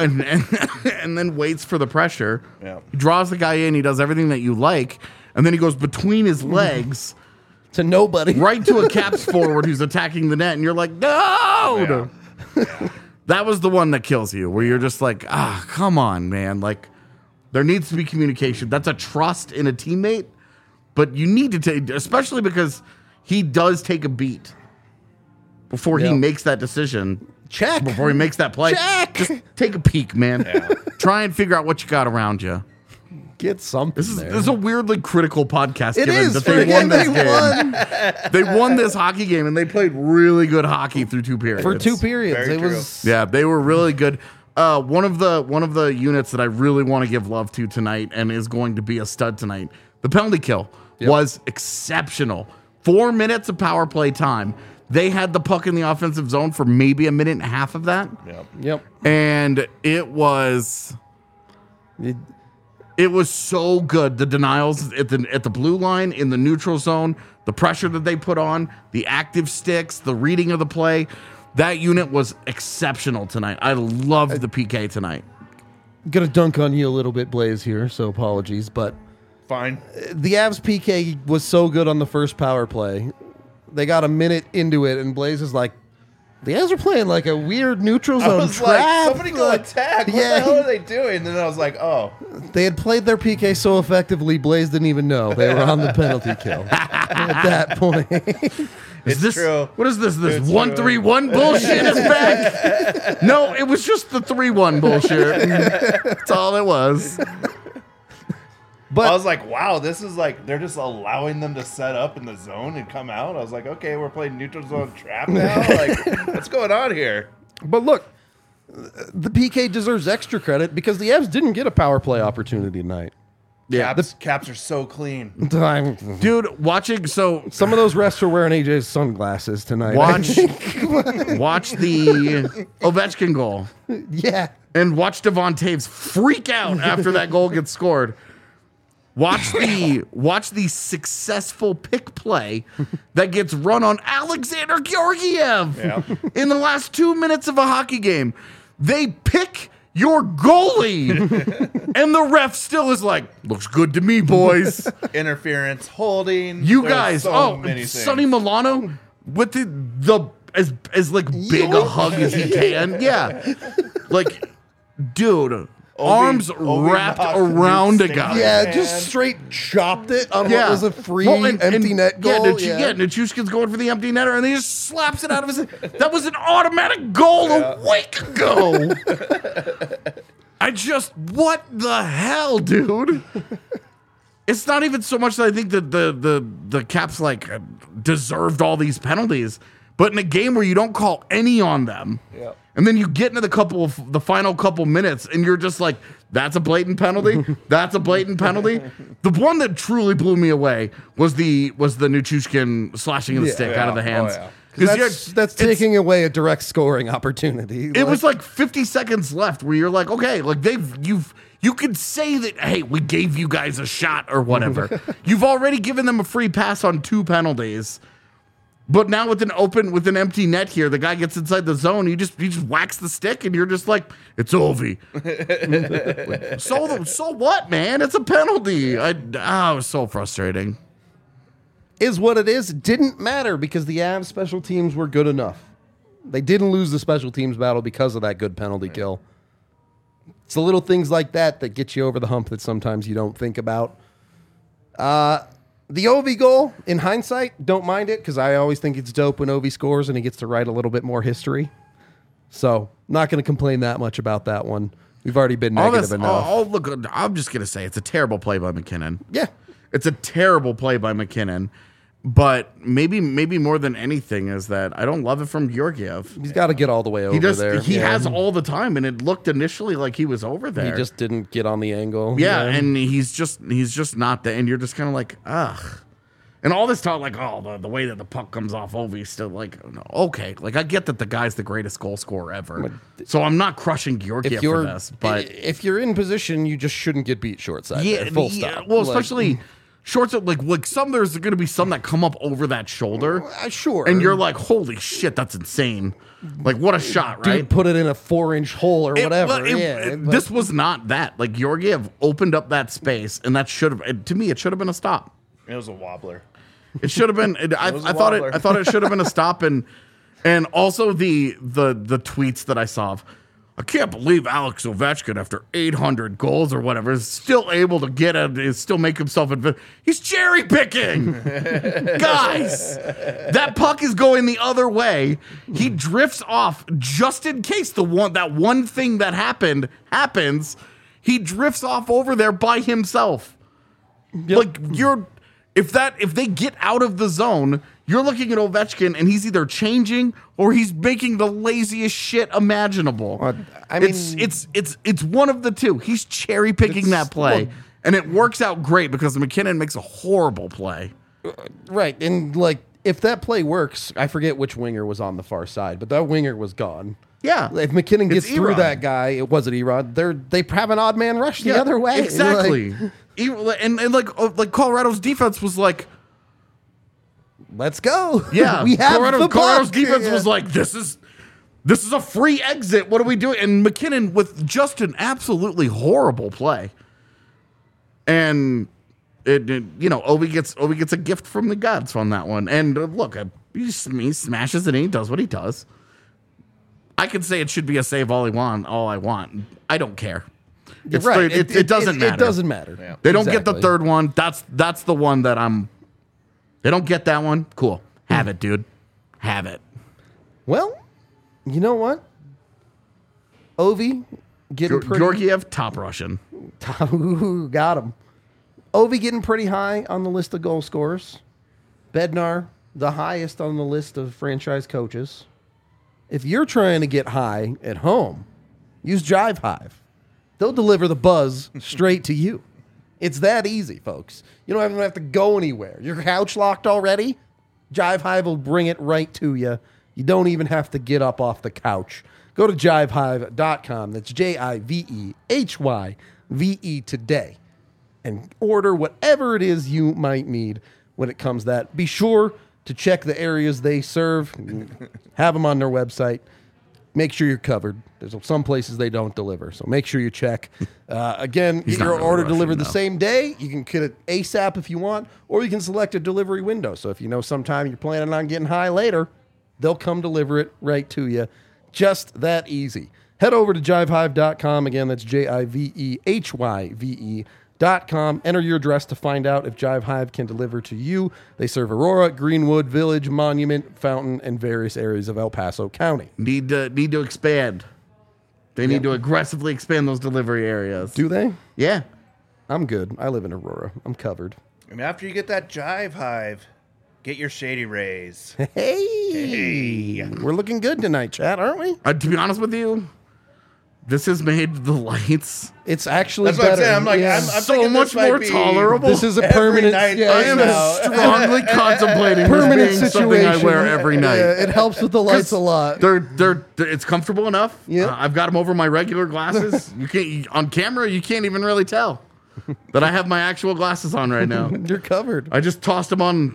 then waits for the pressure. Yeah. He draws the guy in. He does everything that you like, and then he goes between his legs to nobody. right to a Caps forward who's attacking the net, and you're like, no. Yeah. That was the one that kills you, where you're just like, come on, man. Like, there needs to be communication. That's a trust in a teammate, but you need to take, especially because he does take a beat before he makes that decision. Check. Before he makes that play. Check. Just take a peek, man. Yeah. Try and figure out what you got around you. Get something This there. is a weirdly critical podcast. It given is. that they won this game. won They won this hockey game, and they played really good hockey through 2 periods. for 2 periods. Very It true. was Yeah, they were really good. One of the units that I really want to give love to tonight and is going to be a stud tonight, the penalty kill was exceptional. 4 minutes of power play time. They had the puck in the offensive zone for maybe a minute and a half of that. Yep. And it was so good. The denials at the blue line, in the neutral zone, the pressure that they put on, the active sticks, the reading of the play. That unit was exceptional tonight. I loved the PK tonight. Gonna dunk on you a little bit, Blaze, here, so apologies. But Fine. the Avs PK was so good on the first power play. They got a minute into it, and Blaze is like, the Avs are playing like a weird neutral I zone was trap. like, somebody go Like, attack. What yeah. the hell are they doing? And then I was like, oh. They had played their PK so effectively, Blaze didn't even know they were on the penalty kill at that point. Is this true. What is this? This It's 1-3-1 bullshit is back? No, it was just the 3-1 bullshit. That's all it was. But I was like, wow, this is like they're just allowing them to set up in the zone and come out. I was like, okay, we're playing neutral zone trap now. Like, what's going on here? But look, the PK deserves extra credit because the Avs didn't get a power play opportunity tonight. Yeah, Caps are so clean. dude, watching so Some of those refs are wearing AJ's sunglasses tonight. watch the Ovechkin goal Yeah. and watch Devon Taves freak out after that goal gets scored. Watch the successful pick play that gets run on Alexander Georgiev in the last 2 minutes of a hockey game. They pick your goalie, and the ref still is like, looks good to me, boys. Interference, holding. You There's guys, so many things. Sonny Milano with the as like big a hug as he can. Yeah, like, dude. Arms wrapped around a guy. Yeah, just straight chopped it on Yeah. what was a free Well, empty net goal. Yeah, Nichushkin's going for the empty netter, and he just slaps it out of his. That was an automatic goal a week ago. What the hell, dude? It's not even so much that I think that the Caps like deserved all these penalties, but in a game where you don't call any on them. Yeah. And then you get into the final couple minutes, and you're just like, "That's a blatant penalty. That's a blatant penalty." The one that truly blew me away was the Nichushkin slashing the stick out of the hands. Oh, yeah. 'Cause That's taking away a direct scoring opportunity. it was like 50 seconds left where you're like, okay, like you could say that, hey, we gave you guys a shot or whatever. You've already given them a free pass on 2 penalties. But now with an empty net here, the guy gets inside the zone. He just whacks the stick, and you're just like, it's Ovi. So what, man? It's a penalty. It was so frustrating. Is what it is. It didn't matter because the Avs special teams were good enough. They didn't lose the special teams battle because of that good penalty kill. It's the little things like that that get you over the hump that sometimes you don't think about. The Ovi goal, in hindsight, don't mind it because I always think it's dope when Ovi scores and he gets to write a little bit more history. So, not going to complain that much about that one. We've already been negative enough. Look, I'm just going to say it's a terrible play by McKinnon. Yeah. It's a terrible play by McKinnon. But maybe more than anything is that I don't love it from Georgiev. He's got to get all the way over there. He has all the time, and it looked initially like he was over there. He just didn't get on the angle. Yeah, and he's just not there, and you're just kind of like, ugh. And all this talk, like, oh, the way that the puck comes off Ovi is still like, okay. Like, I get that the guy's the greatest goal scorer ever. So I'm not crushing Georgiev for this. But if you're in position, you just shouldn't get beat short side. yeah, there, full stop. Well, especially shorts, like some there's going to be some that come up over that shoulder. Sure. And you're like, holy shit, that's insane. Like, what a shot, right? Dude, put it in a 4-inch hole or whatever. This was not that. Like, Georgiev opened up that space, and that should have, to me, it should have been a stop. It was a wobbler. It should have been. I thought it should have been a stop, and also the tweets that I saw of, I can't believe Alex Ovechkin, after 800 goals or whatever, is still able to still make himself. He's cherry picking, guys. That puck is going the other way. He drifts off just in case that one thing that happens. He drifts off over there by himself. Yep. Like if they get out of the zone, you're looking at Ovechkin and he's either changing or he's making the laziest shit imaginable. I mean, it's one of the two. He's cherry picking that play, and it works out great because McKinnon makes a horrible play. Right, and like if that play works, I forget which winger was on the far side, but that winger was gone. Yeah, if McKinnon gets through Erod. that guy, it wasn't Erod. They have an odd man rush the other way. Exactly. Like, and like Colorado's defense was like, let's go. Yeah, we have Colorado's defense was like, this is a free exit. What are we doing? And McKinnon with just an absolutely horrible play. And Ovi gets a gift from the gods on that one. And look, he smashes it and he does what he does. I could say it should be a save all I want. I don't care. It's right. It doesn't matter. It doesn't matter. Yeah. They don't get the third one. That's the one that they don't get that one. Cool. Have it, dude. Have it. Well, you know what? Ovi getting pretty. Georgiev, top Russian. Got him. Ovi getting pretty high on the list of goal scorers. Bednar, the highest on the list of franchise coaches. If you're trying to get high at home, use Jive Hive. They'll deliver the buzz straight to you. It's that easy, folks. You don't even have to go anywhere. Your couch locked already? Jive Hive will bring it right to you. You don't even have to get up off the couch. Go to jivehive.com. That's JIVEHYVE today. And order whatever it is you might need when it comes to that. Be sure to check the areas they serve. Have them on their website. Make sure you're covered. There's some places they don't deliver, so make sure you check. Again, get your order delivered the same day. You can get it ASAP if you want, or you can select a delivery window. So if you know sometime you're planning on getting high later, they'll come deliver it right to you. Just that easy. Head over to jivehive.com. Again, that's JIVEHYVE.com. Enter your address to find out if Jive Hive can deliver to you. They serve Aurora, Greenwood, Village, Monument, Fountain, and various areas of El Paso County. Need to expand. They need to aggressively expand those delivery areas. Do they? Yeah. I'm good. I live in Aurora. I'm covered. And after you get that Jive Hive, get your Shady Rays. Hey. We're looking good tonight, chat, aren't we? To be honest with you, this has made the lights. It's actually That's what better. I'm saying. I'm like, I'm So thinking much this might more be tolerable. This is a every permanent. night Yeah, I am now. strongly contemplating permanent this being situation. something I wear every night. Yeah, it helps with the lights a lot. They're it's comfortable enough. Yeah. I've got them over my regular glasses. On camera, you can't even really tell that I have my actual glasses on right now. You're covered. I just tossed them on,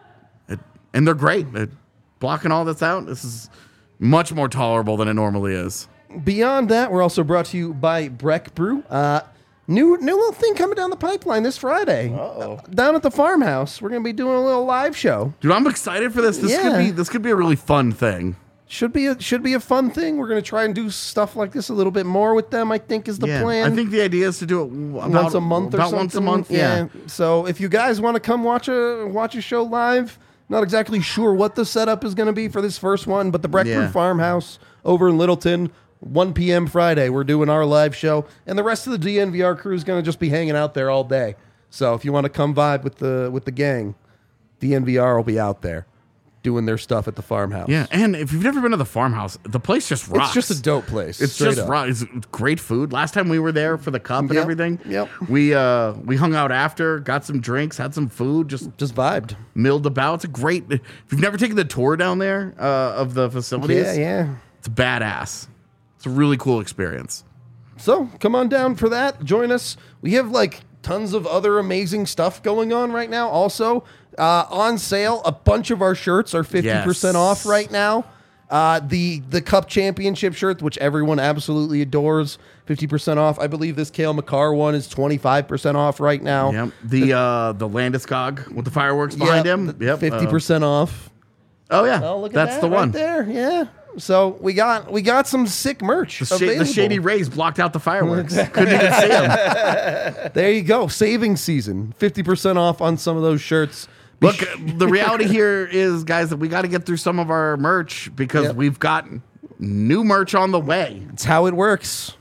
and they're great. They're blocking all this out. This is much more tolerable than it normally is. Beyond that, we're also brought to you by Breck Brew. New little thing coming down the pipeline this Friday. Uh-oh. Down at the farmhouse, we're gonna be doing a little live show. Dude, I'm excited for this. This could be a really fun thing. Should be a fun thing. We're gonna try and do stuff like this a little bit more with them. I think is the plan. I think the idea is to do it once a month or about something. once a month. Yeah. So if you guys want to come watch a show live, not exactly sure what the setup is going to be for this first one, but the Breck Brew Farmhouse over in Littleton, 1 p.m. Friday, we're doing our live show, and the rest of the DNVR crew is going to just be hanging out there all day. So if you want to come vibe with the gang, DNVR will be out there doing their stuff at the farmhouse. Yeah, and if you've never been to the farmhouse, the place just rocks. It's just a dope place. It's straight just up. rocks. It's great food. Last time we were there for the cup and everything, Yep. we hung out after, got some drinks, had some food, just vibed. milled about. It's a great. If you've never taken the tour down there of the facilities, Yeah. it's badass. It's a really cool experience. So come on down for that. Join us. We have like tons of other amazing stuff going on right now. Also on sale, a bunch of our shirts are 50% off right now. The Cup Championship shirt, which everyone absolutely adores, 50% off. I believe this Cale Makar one is 25% off right now. Yep. The Landeskog with the fireworks behind him. Yep. 50% off. Oh yeah, Oh, look at that's that the one. right there. Yeah. So we got some sick merch. The Shady Rays blocked out the fireworks. Couldn't even see them. There you go. Saving season. 50% off on some of those shirts. Look, the reality here is, guys, that we got to get through some of our merch because we've got new merch on the way. It's how it works.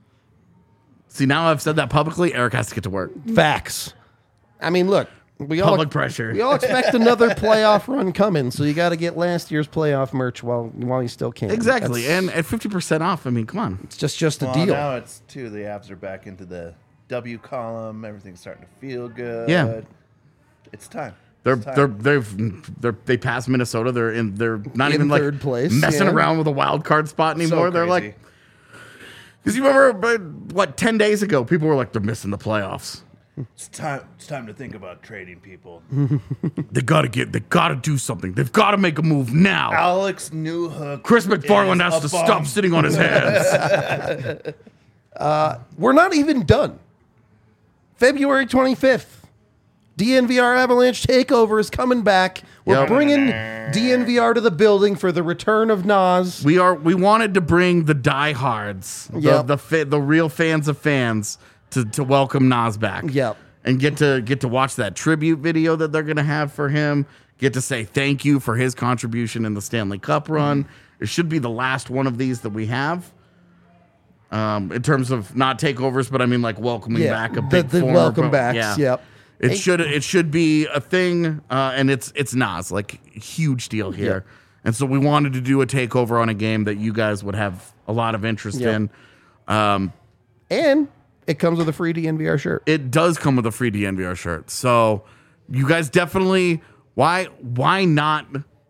See, now I've said that publicly. Eric has to get to work. Facts. I mean, look. Public pressure. We all expect another playoff run coming, so you got to get last year's playoff merch while you still can. Exactly. That's- And at 50% off, I mean, come on. it's just a Well, deal. now it's too. The Avs are back into the W column. Everything's starting to feel good. Yeah. It's time. They passed Minnesota. They're not In even like third place, messing yeah. around with a wild card spot anymore. They're crazy. like, because you remember what 10 days ago people were like they're missing the playoffs. It's time to think about trading people. They gotta do something. They've got to make a move now. Alex Newhook. Chris McFarland is has to a bum. stop sitting on his hands. We're not even done. February 25th, DNVR Avalanche Takeover is coming back. We're Yep. bringing DNVR to the building for the return of Nas. We wanted to bring the diehards, Yep. the real fans of fans, to welcome Nas back. Yep. And get to watch that tribute video that they're gonna have for him. Get to say thank you for his contribution in the Stanley Cup run. It should be the last one of these that we have. In terms of not takeovers, but I mean like welcoming back a big the former welcome pro- backs. Yeah. Yep. It should be a thing, and it's Nas, like, huge deal here. Yeah. And so we wanted to do a takeover on a game that you guys would have a lot of interest in. And it comes with a free DNVR shirt. It does come with a free DNVR shirt. So you guys definitely why not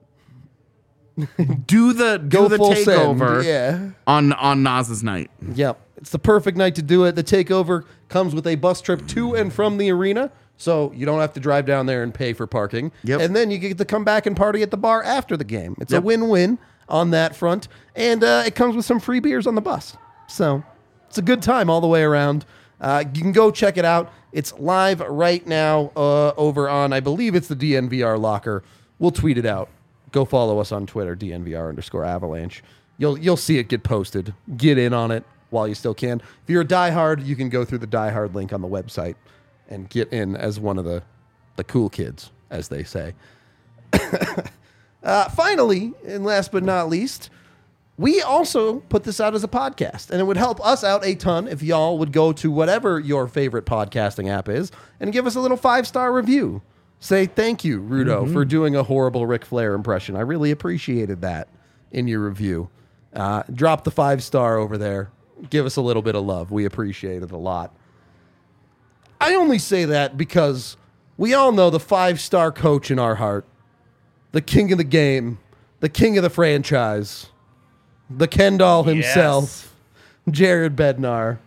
do the full takeover send. Yeah. on Nas's night. Yep. It's the perfect night to do it. The takeover comes with a bus trip to and from the arena, so you don't have to drive down there and pay for parking. Yep. And then you get to come back and party at the bar after the game. It's a Yep. win-win on that front. And it comes with some free beers on the bus. So it's a good time all the way around. You can go check it out. It's live right now over on, I believe it's the DNVR locker. We'll tweet it out. Go follow us on Twitter, DNVR_Avalanche. You'll see it get posted. Get in on it while you still can. If you're a diehard, you can go through the diehard link on the website and get in as one of the cool kids, as they say. Finally, and last but not least, we also put this out as a podcast, and it would help us out a ton if y'all would go to whatever your favorite podcasting app is and give us a little 5-star review. Say thank you, Rudo, for doing a horrible Ric Flair impression. I really appreciated that in your review. Drop the 5-star over there. Give us a little bit of love. We appreciate it a lot. I only say that because we all know the 5-star coach in our heart, the king of the game, the king of the franchise, the Ken doll himself, Jared Bednar,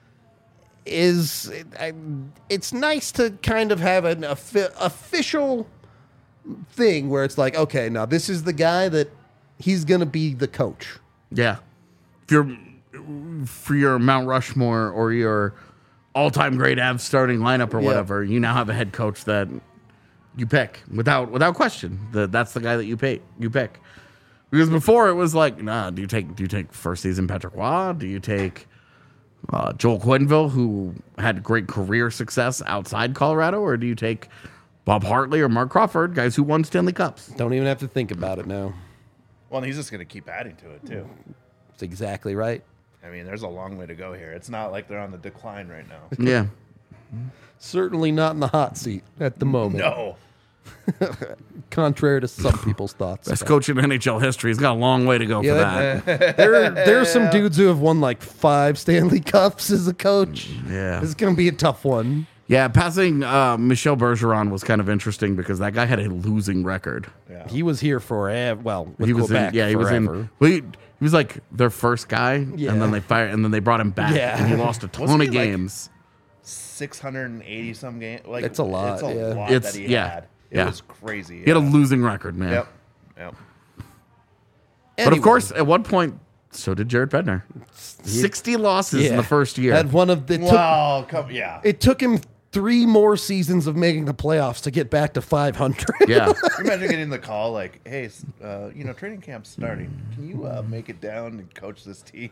it's nice to kind of have an official thing where it's like, okay, now this is the guy that he's going to be the coach. Yeah. If you're for your Mount Rushmore or your all-time great Avs starting lineup or whatever, you now have a head coach that you pick without question. That's the guy that you pick. Because before it was like, nah, do you take first season Patrick Waugh? Do you take Joel Quenneville, who had great career success outside Colorado, or do you take Bob Hartley or Mark Crawford, guys who won Stanley Cups? Don't even have to think about it now. Well, and he's just going to keep adding to it, too. That's exactly right. I mean, there's a long way to go here. It's not like they're on the decline right now. Yeah. Certainly not in the hot seat at the moment. No. Contrary to some people's thoughts. Best coach in NHL history. He's got a long way to go for that. There's some dudes who have won like 5 Stanley Cups as a coach. Yeah. It's going to be a tough one. Yeah, passing Michel Bergeron was kind of interesting because that guy had a losing record. Yeah. He was here forever. Well, with He was Quebec in, yeah, he was forever. in. Well, he was like their first guy, Yeah. and then they fired, and then they brought him back, Yeah. and he lost a ton Wasn't of he, like, games. 680 some games. Like, It's a lot, It's a yeah. lot It's- that he yeah, had. It yeah. was crazy. He had a losing record, man. Yep. But Anyway, of course, at one point, so did Jared Bednar. 60 losses in the first year. Had one of the. Wow. It took him 3 more seasons of making the playoffs to get back to 500. Yeah. Imagine getting the call like, "Hey, training camp's starting. Can you make it down and coach this team?"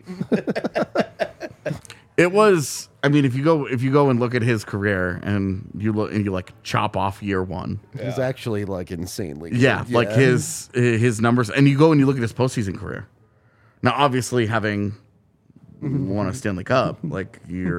It was. I mean, if you go and look at his career and you look and you like chop off year 1. He's actually like insanely good. Yeah, like his numbers, and you go and you look at his postseason career. Now, obviously, having won a Stanley Cup, like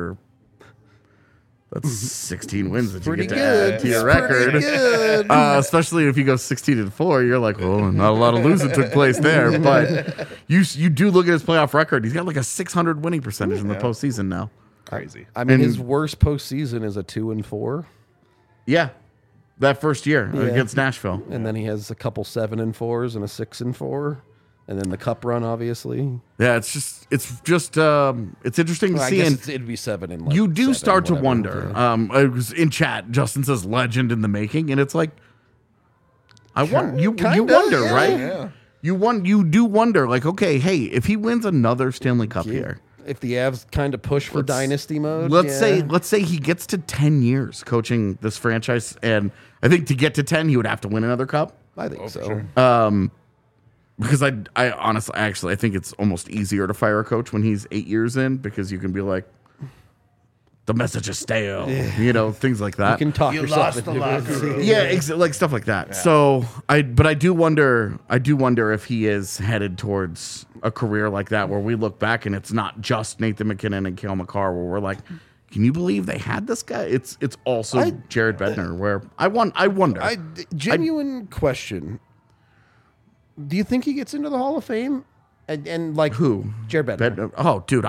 that's 16 wins that you Pretty get to good. add to your It's record. pretty good. Especially if you go 16-4, you're like, well, not a lot of losing took place there. But you do look at his playoff record; he's got like a 600 winning percentage in the postseason now. Crazy. I mean, And- his worst postseason is a 2-4, Yeah, that first year Yeah. against Nashville. and then he has a couple 7-4s and a 6-4, and then the cup run, obviously. Yeah, it's just it's interesting to Well, I see. guess And it'd be 7 and like you do 7, start to whatever, wonder. yeah. I was in chat. Justin says legend in the making, and it's like, you Kinda, wonder, yeah. right? Yeah. You do wonder, like, okay, hey, if he wins another Stanley Cup here, If the Avs kind of push for dynasty mode, let's say he gets to 10 years coaching this franchise, and I think to get to 10, he would have to win another cup. I think so. sure. Because I honestly, I think it's almost easier to fire a coach when he's 8 years in, because you can be like, the message is stale, things like that. You can talk You yourself lost the into locker it. room. Yeah, like stuff like that. So I do wonder if he is headed towards a career like that, where we look back and it's not just Nathan McKinnon and Cale Makar, where we're like, can you believe they had this guy? It's also Jared Bednar. Where I wonder. Genuine question. Do you think he gets into the Hall of Fame? And like who? Jared Bednar. Oh, dude,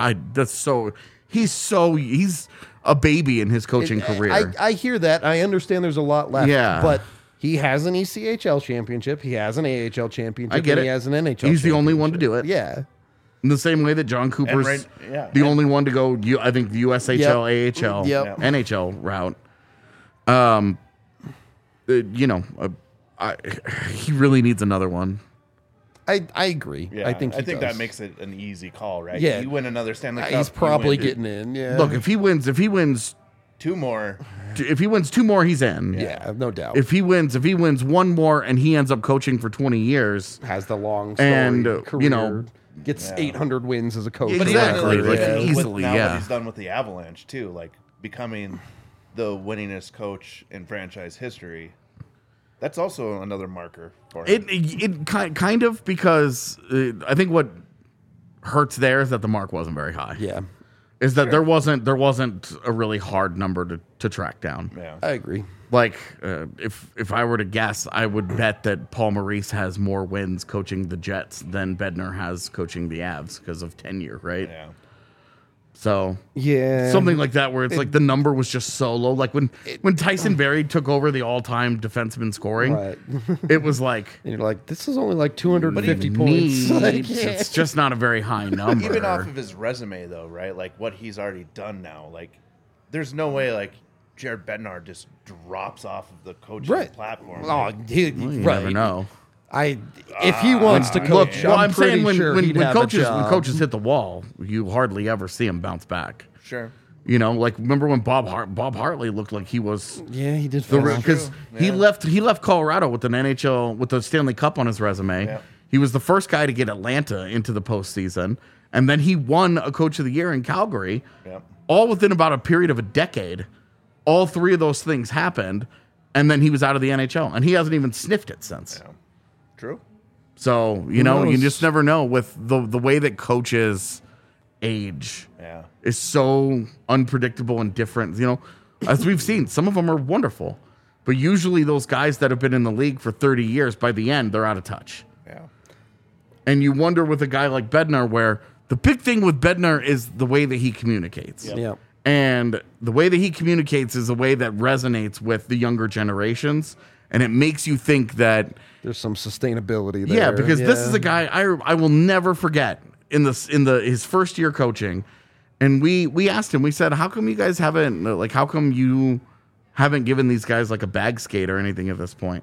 he's a baby in his coaching career. I hear that. I understand there's a lot left. Yeah. But he has an ECHL championship. He has an AHL championship. I get and it. He has an NHL He's the only one to championship. do it. Yeah. In the same way that John Cooper's the only one to go, I think, the USHL, AHL, NHL route. He really needs another one. I agree. Yeah, I think that makes it an easy call, right? Yeah. You win another Stanley Cup. He's probably getting in. Yeah. Look, if he wins 2 more. If he wins 2 more, he's in. Yeah, no doubt. If he wins 1 more and he ends up coaching for 20 years, has the long story, and career, gets 800 wins as a coach. But exactly, even like with easily, now what he's done with the Avalanche too, like becoming the winningest coach in franchise history. That's also another marker for him. It kind of, because I think what hurts there is that the mark wasn't very high. Yeah. Is that there wasn't a really hard number to track down. Yeah, I agree. Like if I were to guess, I would bet that Paul Maurice has more wins coaching the Jets than Bednar has coaching the Avs because of tenure, right? Yeah. So yeah, something like that, where it's like the number was just so low. Like when Tyson Berry took over the all-time defenseman scoring, right. it was like, and you're like, this is only like 250 points. Like, it's just not a very high number. Even off of his resume, though, right? Like what he's already done now. Like, there's no way like Jared Bednar just drops off of the coaching platform. Oh, you never know. If he wants to coach, well, I'm pretty saying sure when he'd have a job. coaches hit the wall, you hardly ever see him bounce back. Sure. You know, like remember when Bob Hartley looked like he was he did because he left Colorado with an NHL with the Stanley Cup on his resume. Yeah. He was the first guy to get Atlanta into the postseason, and then he won a Coach of the Year in Calgary. Yeah. All within about a period of a decade. All 3 of those things happened, and then he was out of the NHL, and he hasn't even sniffed it since. Yeah. True. So, you just never know with the way that coaches age is so unpredictable and different. You know, as we've seen, some of them are wonderful, but usually those guys that have been in the league for 30 years, by the end, they're out of touch. Yeah. And you wonder with a guy like Bednar, where the big thing with Bednar is the way that he communicates. Yeah. And the way that he communicates is a way that resonates with the younger generations. And it makes you think that there's some sustainability there. Yeah, because this is a guy I will never forget in his first year coaching. And we asked him, we said, how come you guys how come you haven't given these guys like a bag skate or anything at this point?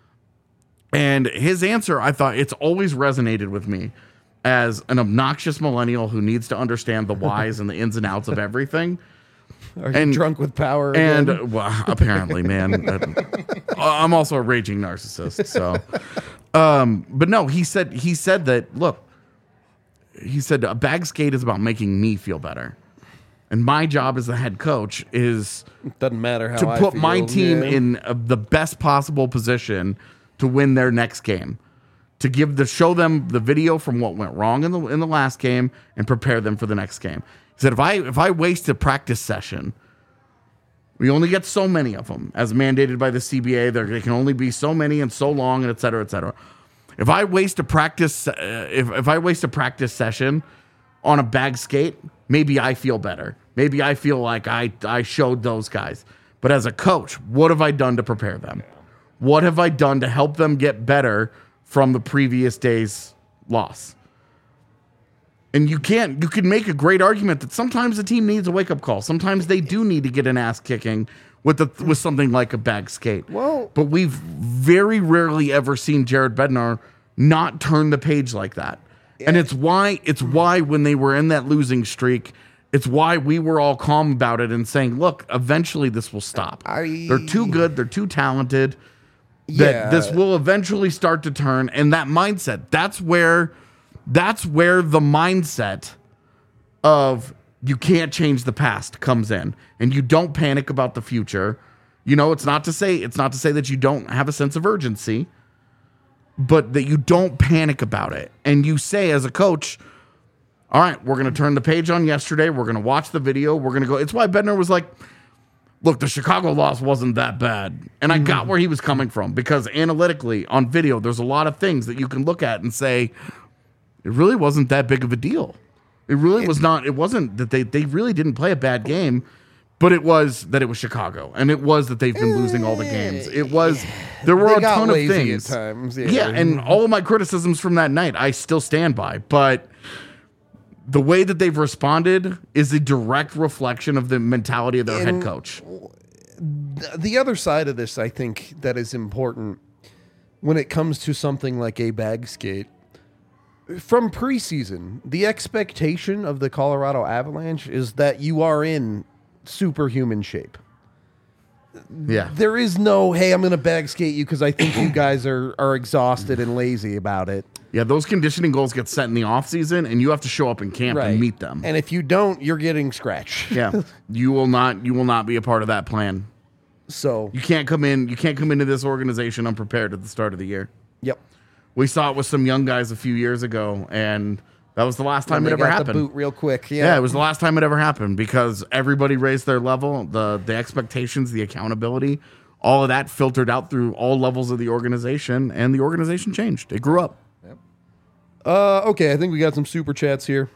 And his answer, I thought, it's always resonated with me as an obnoxious millennial who needs to understand the whys and the ins and outs of everything. Are you drunk with power again? And well, apparently, man. I'm also a raging narcissist. So, but no, he said that. Look, he said a bag skate is about making me feel better, and my job as the head coach is doesn't matter how to I put feel, my team in the best possible position to win their next game. To show them the video from what went wrong in the last game and prepare them for the next game. He said, if I waste a practice session, we only get so many of them, as mandated by the CBA. There can only be so many and so long, and et cetera, et cetera. If I waste a practice, if I waste a practice session on a bag skate, maybe I feel better. Maybe I feel like I showed those guys. But as a coach, what have I done to prepare them? What have I done to help them get better from the previous day's loss? And you can make a great argument that sometimes the team needs a wake-up call. Sometimes they do need to get an ass kicking with something like a bag skate. Well, but we've very rarely ever seen Jared Bednar not turn the page like that. And it's why when they were in that losing streak, it's why we were all calm about it and saying, look, eventually this will stop. They're too good, they're too talented. That this will eventually start to turn, and that mindset, that's where the mindset of you can't change the past comes in, and you don't panic about the future. You know, it's not to say that you don't have a sense of urgency, but that you don't panic about it. And you say as a coach, all right, we're going to turn the page on yesterday. We're going to watch the video. We're going to go. It's why Bednar was like, look, the Chicago loss wasn't that bad. And I got where he was coming from because analytically on video, there's a lot of things that you can look at and say, it really wasn't that big of a deal. It really was not. It wasn't that they really didn't play a bad game, but it was that it was Chicago. And it was that they've been losing all the games. It was, there were a ton of things. At times, Yeah, and all of my criticisms from that night, I still stand by. But the way that they've responded is a direct reflection of the mentality of their head coach. The other side of this, I think, that is important when it comes to something like a bag skate. From preseason, the expectation of the Colorado Avalanche is that you are in superhuman shape. Yeah. There is no, hey, I'm going to bag skate you because I think you guys are exhausted and lazy about it. Yeah, those conditioning goals get set in the offseason, and you have to show up in camp and meet them. And if you don't, you're getting scratched. Yeah. You will not be a part of that plan. So You can't come into this organization unprepared at the start of the year. Yep. We saw it with some young guys a few years ago, and that was the last time it ever got happened. the boot real quick. Yeah, it was the last time it ever happened because everybody raised their level, the expectations, the accountability, all of that filtered out through all levels of the organization, and the organization changed. It grew up. Yep. Okay, I think we got some super chats here.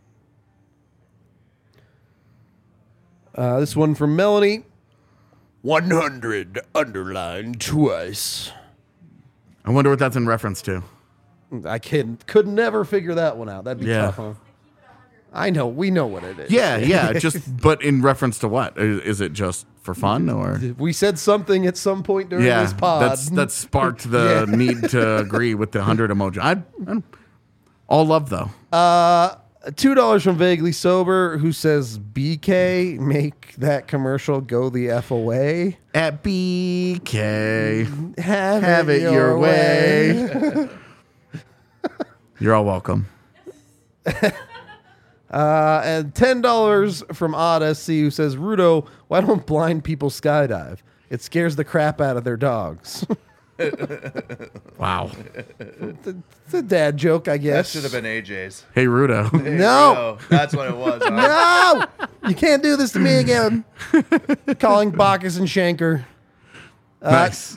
This one from Melanie. 100 underlined twice. I wonder what that's in reference to. I could never figure that one out. That'd be tough, huh? I know. We know what it is. Yeah. But in reference to what? Is it just for fun or? We said something at some point during this pod. That sparked the need to agree with the 100 emoji. I all love though. $2 from Vaguely Sober, who says, BK, make that commercial go the F away. At BK, Have it your way. You're all welcome. And $10 from Odyssey, who says, Rudo, why don't blind people skydive? It scares the crap out of their dogs. Wow. It's a dad joke, I That guess. should have been AJ's. Hey, Rudo. No. That's what it was. Huh? No! You can't do this to me again. Calling Bacchus and Shanker. Nice.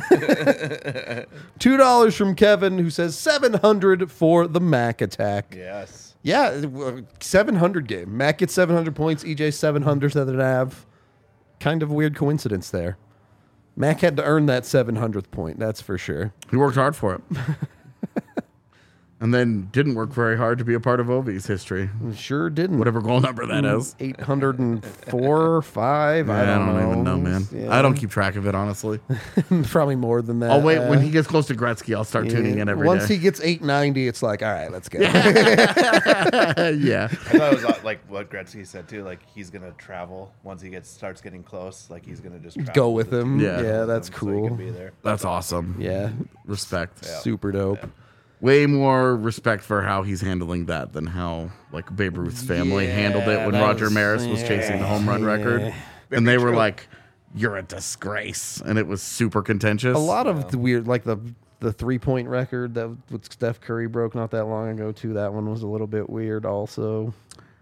$2 from Kevin, who says 700 for the Mac attack. Yes. Yeah, 700 game. Mac gets 700 points. EJ 700 that it have. Kind of weird coincidence there. Mac had to earn that 700th point, that's for sure. He worked hard for it. And then didn't work very hard to be a part of Ovi's history. Sure didn't. Whatever goal number that is. 804 or 5. I don't know. Even know, man. Yeah. I don't keep track of it, honestly. Probably more than that. I'll wait. When he gets close to Gretzky, I'll start tuning in every day. Once he gets 890, it's like, all right, let's go. Yeah. I thought it was like what Gretzky said too. Like he's gonna travel once he starts getting close. Like he's gonna just travel Go with him. Yeah. Yeah, that's so he cool. can be there. That's awesome. Yeah, Respect. super dope. Way more respect for how he's handling that than how like Babe Ruth's family handled it when that Roger was- Maris was chasing the home run record. And they were like, you're a disgrace. And it was super contentious. A lot of the weird, like the 3-point record that with Steph Curry broke not that long ago too. That one was a little bit weird also.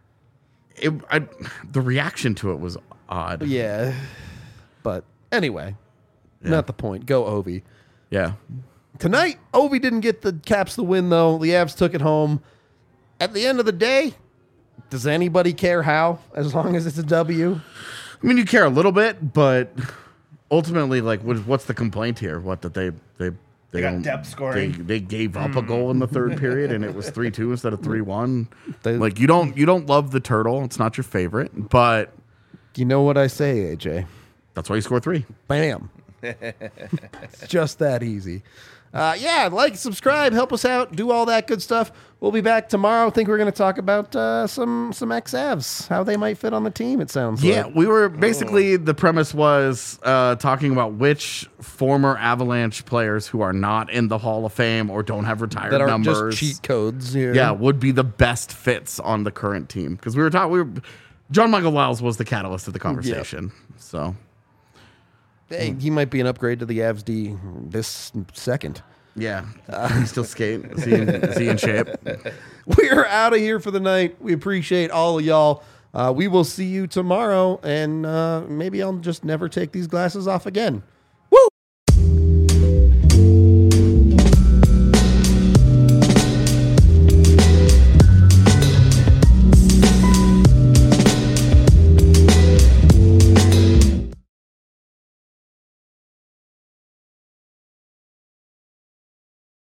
The reaction to it was odd. Yeah, but anyway, not the point. Go Ovi. Yeah. Tonight, Ovi didn't get the Caps the win, though. The Avs took it home. At the end of the day, does anybody care how, as long as it's a W? I mean, you care a little bit, but ultimately, like, what's the complaint here? What, that they They got don't- depth scoring. They gave up a goal in the third period, and it was 3-2 instead of 3-1. They- Like, you don't love the turtle. It's not your favorite, but You know what I say, AJ? that's why you score 3. Bam. It's just that easy. Like, subscribe, help us out, do all that good stuff. We'll be back tomorrow. I think we're going to talk about some ex-Avs, how they might fit on the team, it sounds Yeah, like. we were basically the premise was talking about which former Avalanche players who are not in the Hall of Fame or don't have retired That are numbers. just cheat codes. Yeah, would be the best fits on the current team because we were talking. John Michael Lyles was the catalyst of the conversation. So Hey, he might be an upgrade to the Avs D this second. Yeah, he's still skating. Is he in shape? We're out of here for the night. We appreciate all of y'all. We will see you tomorrow, and maybe I'll just never take these glasses off again.